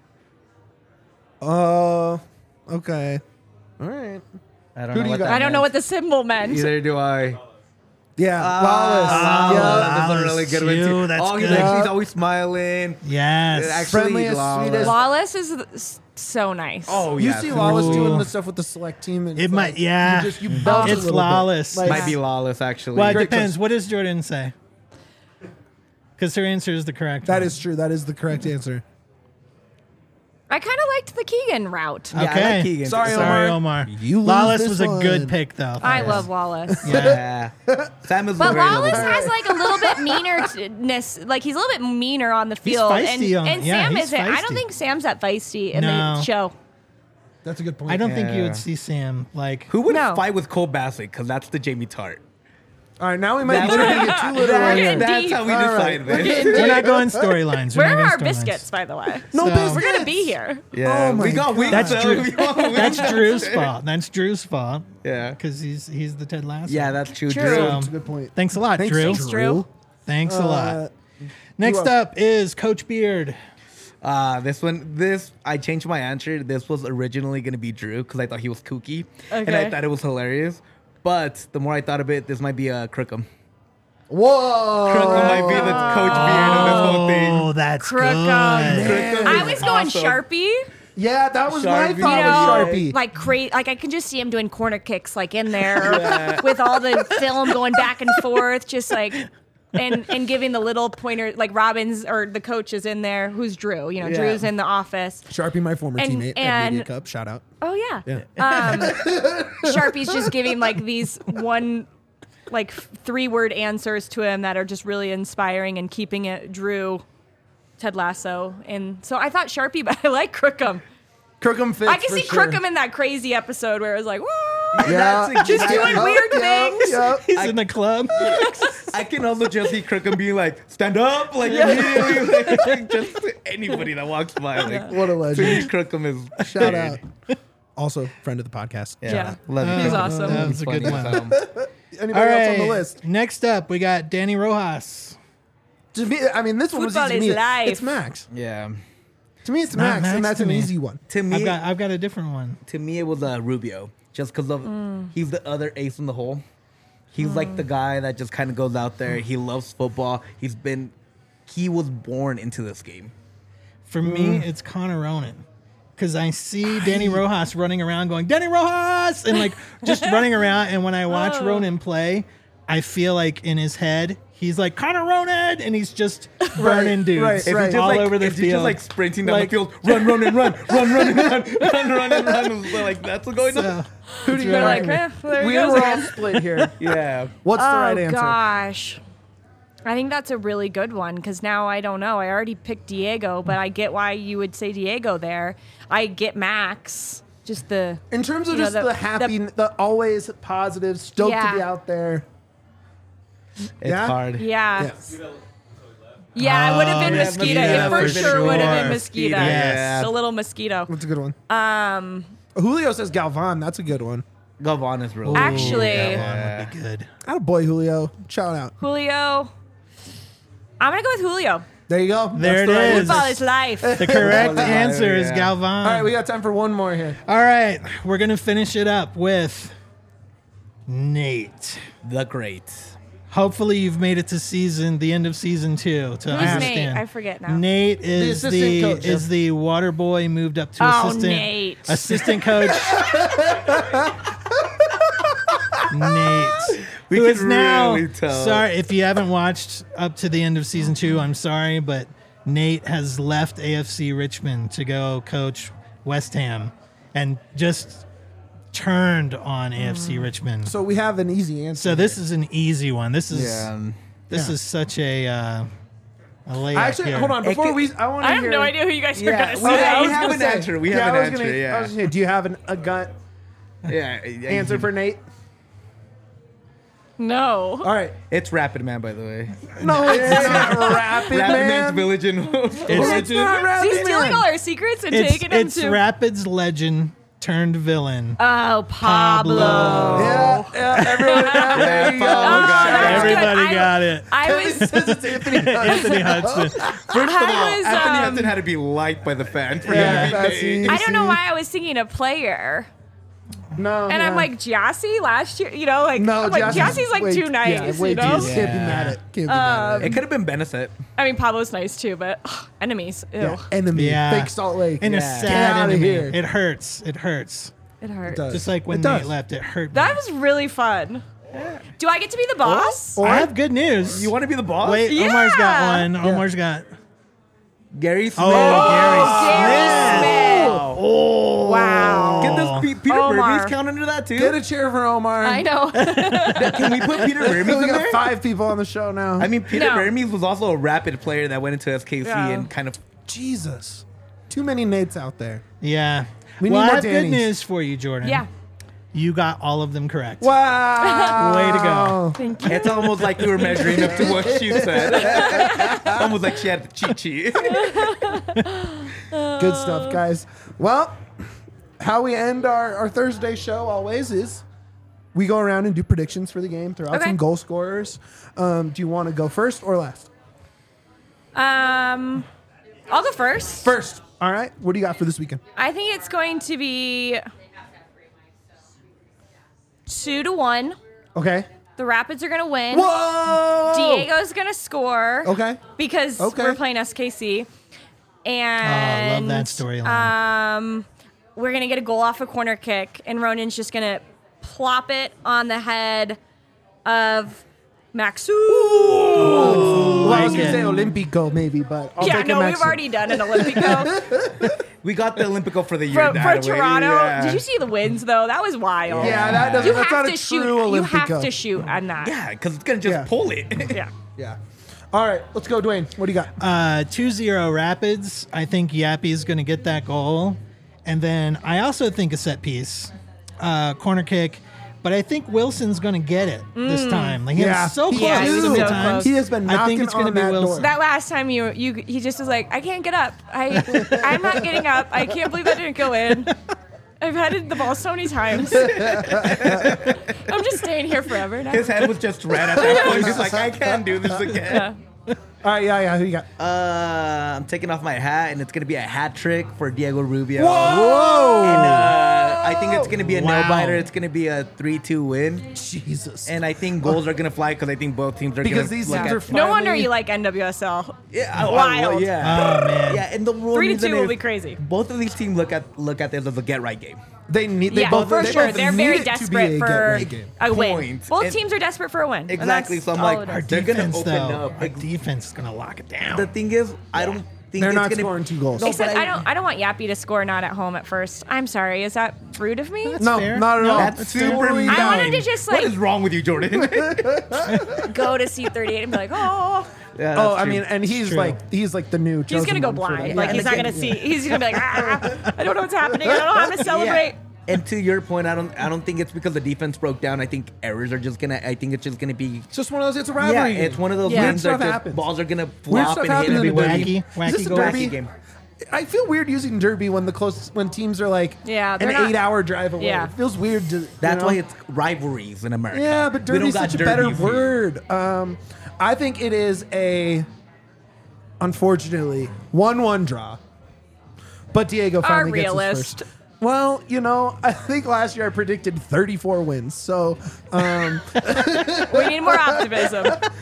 Uh, okay. All right. I don't Who know do you what got? that I don't know meant. what the symbol meant. Either do I. Yeah, Ah, Wallace. yeah. that's a Wallace really good one too, too. that's oh, he's good. like he's always smiling. Yes. Actually, Friendliest, Lawless. sweetest. Wallace is s- so nice. Oh You yeah, see for Lawless Ooh. doing the stuff with the select team. And It it's might- like, yeah. You just, you bounce a It's little bit. Lawless. Like, might be Lawless actually. Well, it Great depends. choice. What does Jordan say? Because her answer is the correct That one. is true. That is the correct answer. I kind of liked the Keegan route. Yeah, I like Okay. Keegan. Sorry, Sorry, Omar. Omar. You lose Lawless this was a one. good pick, though. I Yes. love Wallace. Yeah. Sam is But very Wallace little- has like a little bit meanerness, like he's a little bit meaner on the field, feisty and, on- and yeah, Sam he's isn't. I don't feisty. think Sam's that feisty in No. the show. That's a good point. I don't think you Yeah. would see Sam like. Who would No. fight with Cole Bassett? Because that's the Jamie Tart. All right, now we might That's- literally get too little We're on getting here. That's deep. how we All decide right. this. We're not going storylines. We're Where not are going our storylines. biscuits, by the way? No So- biscuits. We're gonna be here. Yeah, Oh my we got wings. That's though. Drew. We got wings. That's Drew's fault. That's Drew's fault Yeah. because he's he's the Ted Lasso. Yeah, that's true. True. Drew. That's a good point. Thanks a lot, Thanks, Drew. Thanks, Drew. Thanks a Uh, lot. Next else? up is Coach Beard. Uh, this one, this I changed my answer. This was originally gonna be Drew because I thought he was kooky, and I Okay. thought it was hilarious. But the more I thought of it, this might be a Crookham. Whoa. Crookham might be the coach beard of this whole thing. Oh, that's Crookham. good. Crookham I is was going awesome. Sharpie. Yeah, that was my Sharpie. thought You was know, Sharpie. like cra- like I can just see him doing corner kicks, like in there with all the film going back and forth, just like, and and giving the little pointer, like Robbins or the coach is in there, who's Drew. You know, Yeah. Drew's in the office. Sharpie, my former And- teammate at and- Media Cup. Shout out. Oh yeah. Yeah. Um, Sharpie's just giving like these one, like three word answers to him that are just really inspiring and keeping it Drew, Ted Lasso, and so I thought Sharpie, but I like Crookham. Crookham fits. I can for see sure. Crookham in that crazy episode where it was like, whoa, Yeah, That's just doing exactly- weird Yep, things. yep. He's in the club. I can also just see Crookham being like, stand up, like immediately, like, just to anybody that walks by. Like, What a to me, legend. Crookham is Shout weird. out. Also, friend of the podcast. Yeah, Yeah. love you. He's Crookham. awesome. That was a good Funny one. as hell. Anybody All else on the right. list? Next up, we got Danny Rojas. To me, I mean, this one was Football easy to is me. life. It's Max. Yeah. To me, it's Not Max, Max and that's to an me. easy one. To me, I've got I've got a different one. to me, it was uh, Rubio, just because of Mm. he's the other ace in the hole. He's like the guy that just kind of goes out there. He loves football. He's been, he was born into this game. For me, it's Connor Ronan. Because I see Danny Rojas running around going, Danny Rojas! And like just running around. And when I watch Oh. Ronan play, I feel like in his head, he's like, Connor Ronan! And he's just burning dudes right, If you're right. just all like, over the if you're field. just like sprinting down Like- the field, run, run, and run, run, run, and run, run, run, and run. So like that's what's going So, on. Who do you They're got? like, eh, there he we goes were all again. split here. Yeah. What's the Oh right answer? gosh. I think that's a really good one because now I don't know. I already picked Diego, but I get why you would say Diego there. I get Max. Just the In terms of You know, just the, the- happy, the, always positive, stoked Yeah. to be out there. It's Yeah? hard. yeah. Yes. Yeah, it would have been Oh, yeah, mosquito. Mosquito, It for for sure would have been sure. mosquito. Yes. The little mosquito. That's a good one. Um, Julio says Galvan. That's a good one. Galvan is really Actually- that Yeah. one would be good. Out Boy Julio. Shout out. Julio. I'm gonna go with Julio. There you go. There That's the it right is. answer. Football is life. The correct Yeah. answer is Yeah. Galvan. All right, we got time for one more here. All right, we're going to finish it up with Nate. the great. Hopefully you've made it to season, the end of season two. To Who's Ashton. Nate? I forget now. Nate is The the, assistant coach, is yeah. the water boy moved up to Oh, assistant Nate. assistant coach. Nate, We who can is now really tell. sorry if you haven't watched up to the end of season two. I'm sorry, but Nate has left A F C Richmond to go coach West Ham, and just turned on A F C Richmond. So we have an easy answer. So this is an easy one. This is Yeah. this Yeah. is such a uh, a layup Actually, here. hold on. Before could- we, I want to I have hear. no idea who you guys are Yeah, gonna we- say. I was have gonna an say- answer. We yeah, have I an was gonna- answer, yeah. I was gonna say, do you have an, a gut Yeah. answer for Nate? No. All right. It's Rapid Man, by the way. No, it's not Rapid Rapid Man's Man. Village in It's not Rapid Is he stealing Man. all our secrets and It's, taking them it's to? Rapids legend turned villain. Oh, Pablo. Pablo. Yeah, yeah, everyone. Yeah, there you go. Pablo got it. that's good. Everybody I- got it. I It was. says it's Anthony Hudson. Anthony Hudson. First of all, I was, Anthony um, Hudson had to be liked by the fans. For Yeah, him to be that's named. easy. I don't know why I was thinking a player. No, And yeah. I'm like, Jassy last year, you know, like, no, I'm like Jassie's Jassy's like way- too nice, yeah, way you know? too- Can't be Yeah. mad at. Can't be mad at. It could have been Benicet. I mean, Pablo's nice too, but ugh, enemies, ew, Yeah, enemy. Yeah. Fake Salt Lake. And a Yeah. Get sad outta enemy. here. It hurts. It hurts. it hurt. does. Just like when It Nate does. left, it hurt. That me. was really fun. Do I get to be the boss? Or- I have good news. You want to be the boss? Wait, Yeah. Omar's got one. Omar's got. Gary Smith. Oh, Gary Gary Smith. Smith. Oh, Wow. Can this Pe- Peter Omar. Vermes count under that too? Get a cheer for Omar. I know. Can we put Peter Vermes We in got there? five people on the show now. I mean, Peter No. Vermes was also a Rapid player that went into S K C Yeah. and kind of. Jesus, too many Nates out there. Yeah. We well, need I more have good Dannys. news for you, Jordan. Yeah. You got all of them correct. Wow, Way to go. Thank you. It's almost like we were measuring up to what she said. Almost like she had the cheat sheet. Good stuff, guys. Well, how we end our, our Thursday show always is we go around and do predictions for the game, throw out Okay. some goal scorers. Um, do you want to go first or last? Um, I'll go first. First. All right. What do you got for this weekend? I think it's going to be two to one. Okay. The Rapids are going to win. Whoa! Diego's going to score. Okay. Because Okay. we're playing S K C. Oh, And I love that storyline. Um, we're going to get a goal off a corner kick, and Ronan's just going to plop it on the head of Maxu. Well, I was like going to it. say Olympico maybe, but I'll Yeah, take no, a we've Mexican. already done an Olympico We got the Olympico for the year. for, that for way. Toronto. Yeah. Did you see the wins, though? That was wild. Yeah, that doesn't, You that's have not a to shoot. true You Olympico. have to shoot on that. Yeah, because it's gonna just Yeah. pull it. Yeah. Yeah. All right. Let's go, Dwayne. What do you got? Uh, two zero Rapids. I think Yappy's going to get that goal. And then I also think a set piece, uh, corner kick. But I think Wilson's going to get it this time. Like, he Yeah. was so close Yeah, he was so many so times. close. He has been I think knocking it's gonna on be that Wilson. door. That last time you you he just was like, I can't get up. I I'm not getting up. I can't believe that didn't go in. I've headed the ball so many times. I'm just staying here forever now. His head was just red at that point. He's like, I can't do this again. Yeah. All right. Yeah, yeah. Who you got? Uh, I'm taking off my hat, and it's gonna be a hat trick for Diego Rubio. Whoa! And uh, I think it's gonna be a Wow. nail biter. It's gonna be a three two win. Jesus. And I think goals are gonna fly because I think both teams are Because gonna these look teams at- are fly- No wonder Finally- you like N W S L. Yeah, I- I- Wild. yeah. Oh, man. Yeah, and the rule Three to reason two will is be crazy. Both of these teams look at look at this as a get right game. They need. They Yeah, both, for they sure. both They're need very it to be desperate a for get-right game. a win. Points. Both And- teams are desperate for a win. and Exactly, that's so I'm all like, it Our is. They're gonna defense, open though, up. our Like, defense is going to lock it down. The thing is, I don't think They're it's not gonna, scoring two goals. No, Except but I don't. I don't want Yappy to score not at home at first. I'm sorry. Is that rude of me? No, fair. not at No, all. that's It's super totally mean. I fine. wanted to just What like is wrong with you, Jordan? go to seat thirty-eight and be like, oh, Yeah, Oh, that's I true. mean, and he's true. like, he's like the new. he's chosen gonna go one for blind. them. Like Yeah. he's not gonna see. He's gonna be like, ah, I don't know what's happening. I don't know how to celebrate. Yeah. And to your point, I don't, I don't think it's because the defense broke down. I think errors are just gonna. I think it's just gonna be. It's just one of those. It's a Yeah, rivalry. game. it's one of those Yeah. games Weird that stuff just happens. balls are gonna Weird flop stuff and hit happens in the everybody. derby. Wacky, Is this wacky a goal. derby? Wacky game. I feel weird using derby when the close when teams are like Yeah, an they're not- eight-hour drive away. Yeah. It feels weird to. you That's know? why it's rivalries in America. Yeah, but We don't derby's got such a better derbies here. word. Um, I think it is a, unfortunately, one-one draw. But Diego Our finally gets his realist. first. Well, you know, I think last year I predicted thirty-four wins. So, um, We need more optimism.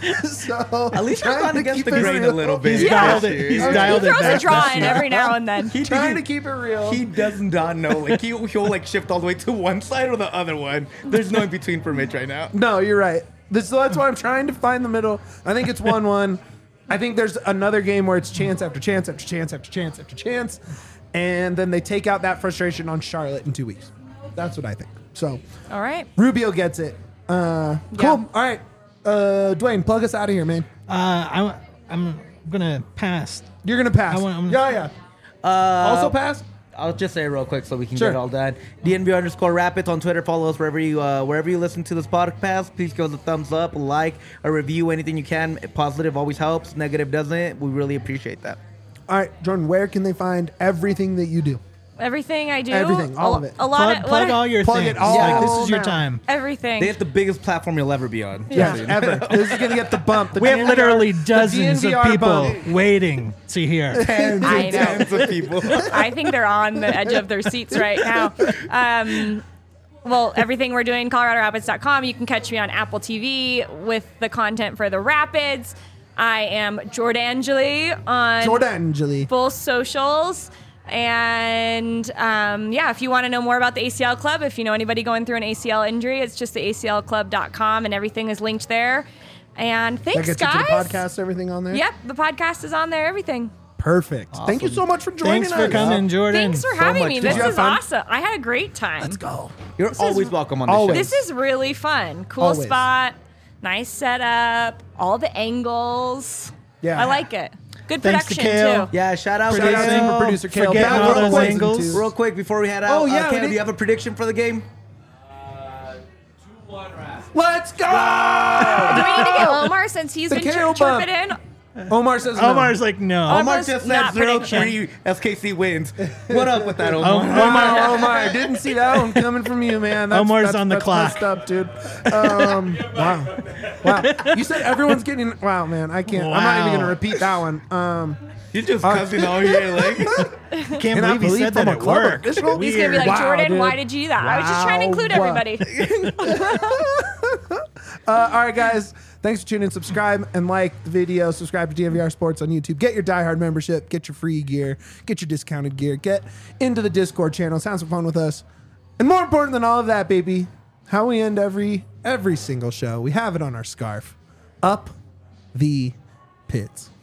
so At least you're trying gone to against keep the it grain real. a little bit. He's Yeah. dialed it. He's He dialed He it throws back a draw this in year. every now and then. He, Trying he, to keep it real. he does not know. Like he, he'll like shift all the way to one side or the other one. There's no in between for Mitch right now. No, you're right. This, so that's why I'm trying to find the middle. I think it's one-one. I think there's another game where it's chance after chance after chance after chance after chance, and then they take out that frustration on Charlotte in two weeks. That's what I think. So All right. Rubio gets it. Uh, cool. Yeah. All right, uh, Dwayne, plug us out of here, man. Uh, I, I'm going to pass. You're gonna pass. I want- I'm- yeah, yeah. Uh, Also pass. I'll just say it real quick so we can Sure. get all done. D N B underscore Rapids on Twitter. Follow us wherever you uh, wherever you listen to this podcast. Please give us a thumbs up, a like, a review, anything you can. Positive always helps. Negative doesn't. We really appreciate that. All right, Jordan. Where can they find everything that you do? Everything I do. Everything, all a, of it. A lot Plug, of plug lot of- all your Plug it things. all Like, this is your now. time. everything. They have the biggest platform you'll ever be on. Yeah, Soon. ever. This is gonna get the bump. The We have D N V R literally the dozens D N V of R people bump. waiting to hear. Tens I and know. tens of people. I think they're on the edge of their seats right now. Um, well, everything we're doing, Colorado Rapids dot com. You can catch me on Apple T V with the content for the Rapids. I am Jordangeli on Jordangeli. both socials. And um, yeah, if you want to know more about the A C L Club, if you know anybody going through an A C L injury, it's just the A C L club dot com and everything is linked there. And That thanks, gets you guys. to the podcast. Everything on there. Yep, the podcast is on there, everything. Perfect. Thank you so much for joining Thanks us. for coming, Jordan. Thanks for so having much me. fun. This Did you have is fun? awesome. I had a great time. Let's go. You're is- always welcome on the Always. show. This is really fun. Cool Always. spot, nice setup, all the angles. Yeah. I like it. Good Thanks to production Kale. too. Yeah, shout out, Shout out to Kale. super producer Kale. Forgetting Back all real those quick. angles. Real quick before we head out, Oh, yeah, uh, we Cam, did- do you have a prediction for the game? Let's go. Do we need to get Omar since he's The been Kale chirping bump. in? Omar says no. Omar's like, no. Omar- Omar Almost just said not zero prediction. three S K C wins. What up with that, Omar? Oh, Wow, Omar, Omar, didn't see that one coming from you, man. That's, Omar's that's, on the that's clock. messed up, dude. Um, wow, wow. You said everyone's getting. Wow, man. I can't. I'm not even Wow. gonna repeat that one. Um, You're just cussing all here, like. can't and I believe he believe said from that a at club work. official? He's gonna be like, Wow, Jordan, dude. why did you do that? I was just trying to include Wow. everybody. Uh, all right, guys. Thanks for tuning in. Subscribe and like the video. Subscribe to D N V R Sports on YouTube. Get your Die Hard membership. Get your free gear. Get your discounted gear. Get into the Discord channel. Have some fun with us. And more important than all of that, baby, how we end every every single show. We have it on our scarf. Up the pits.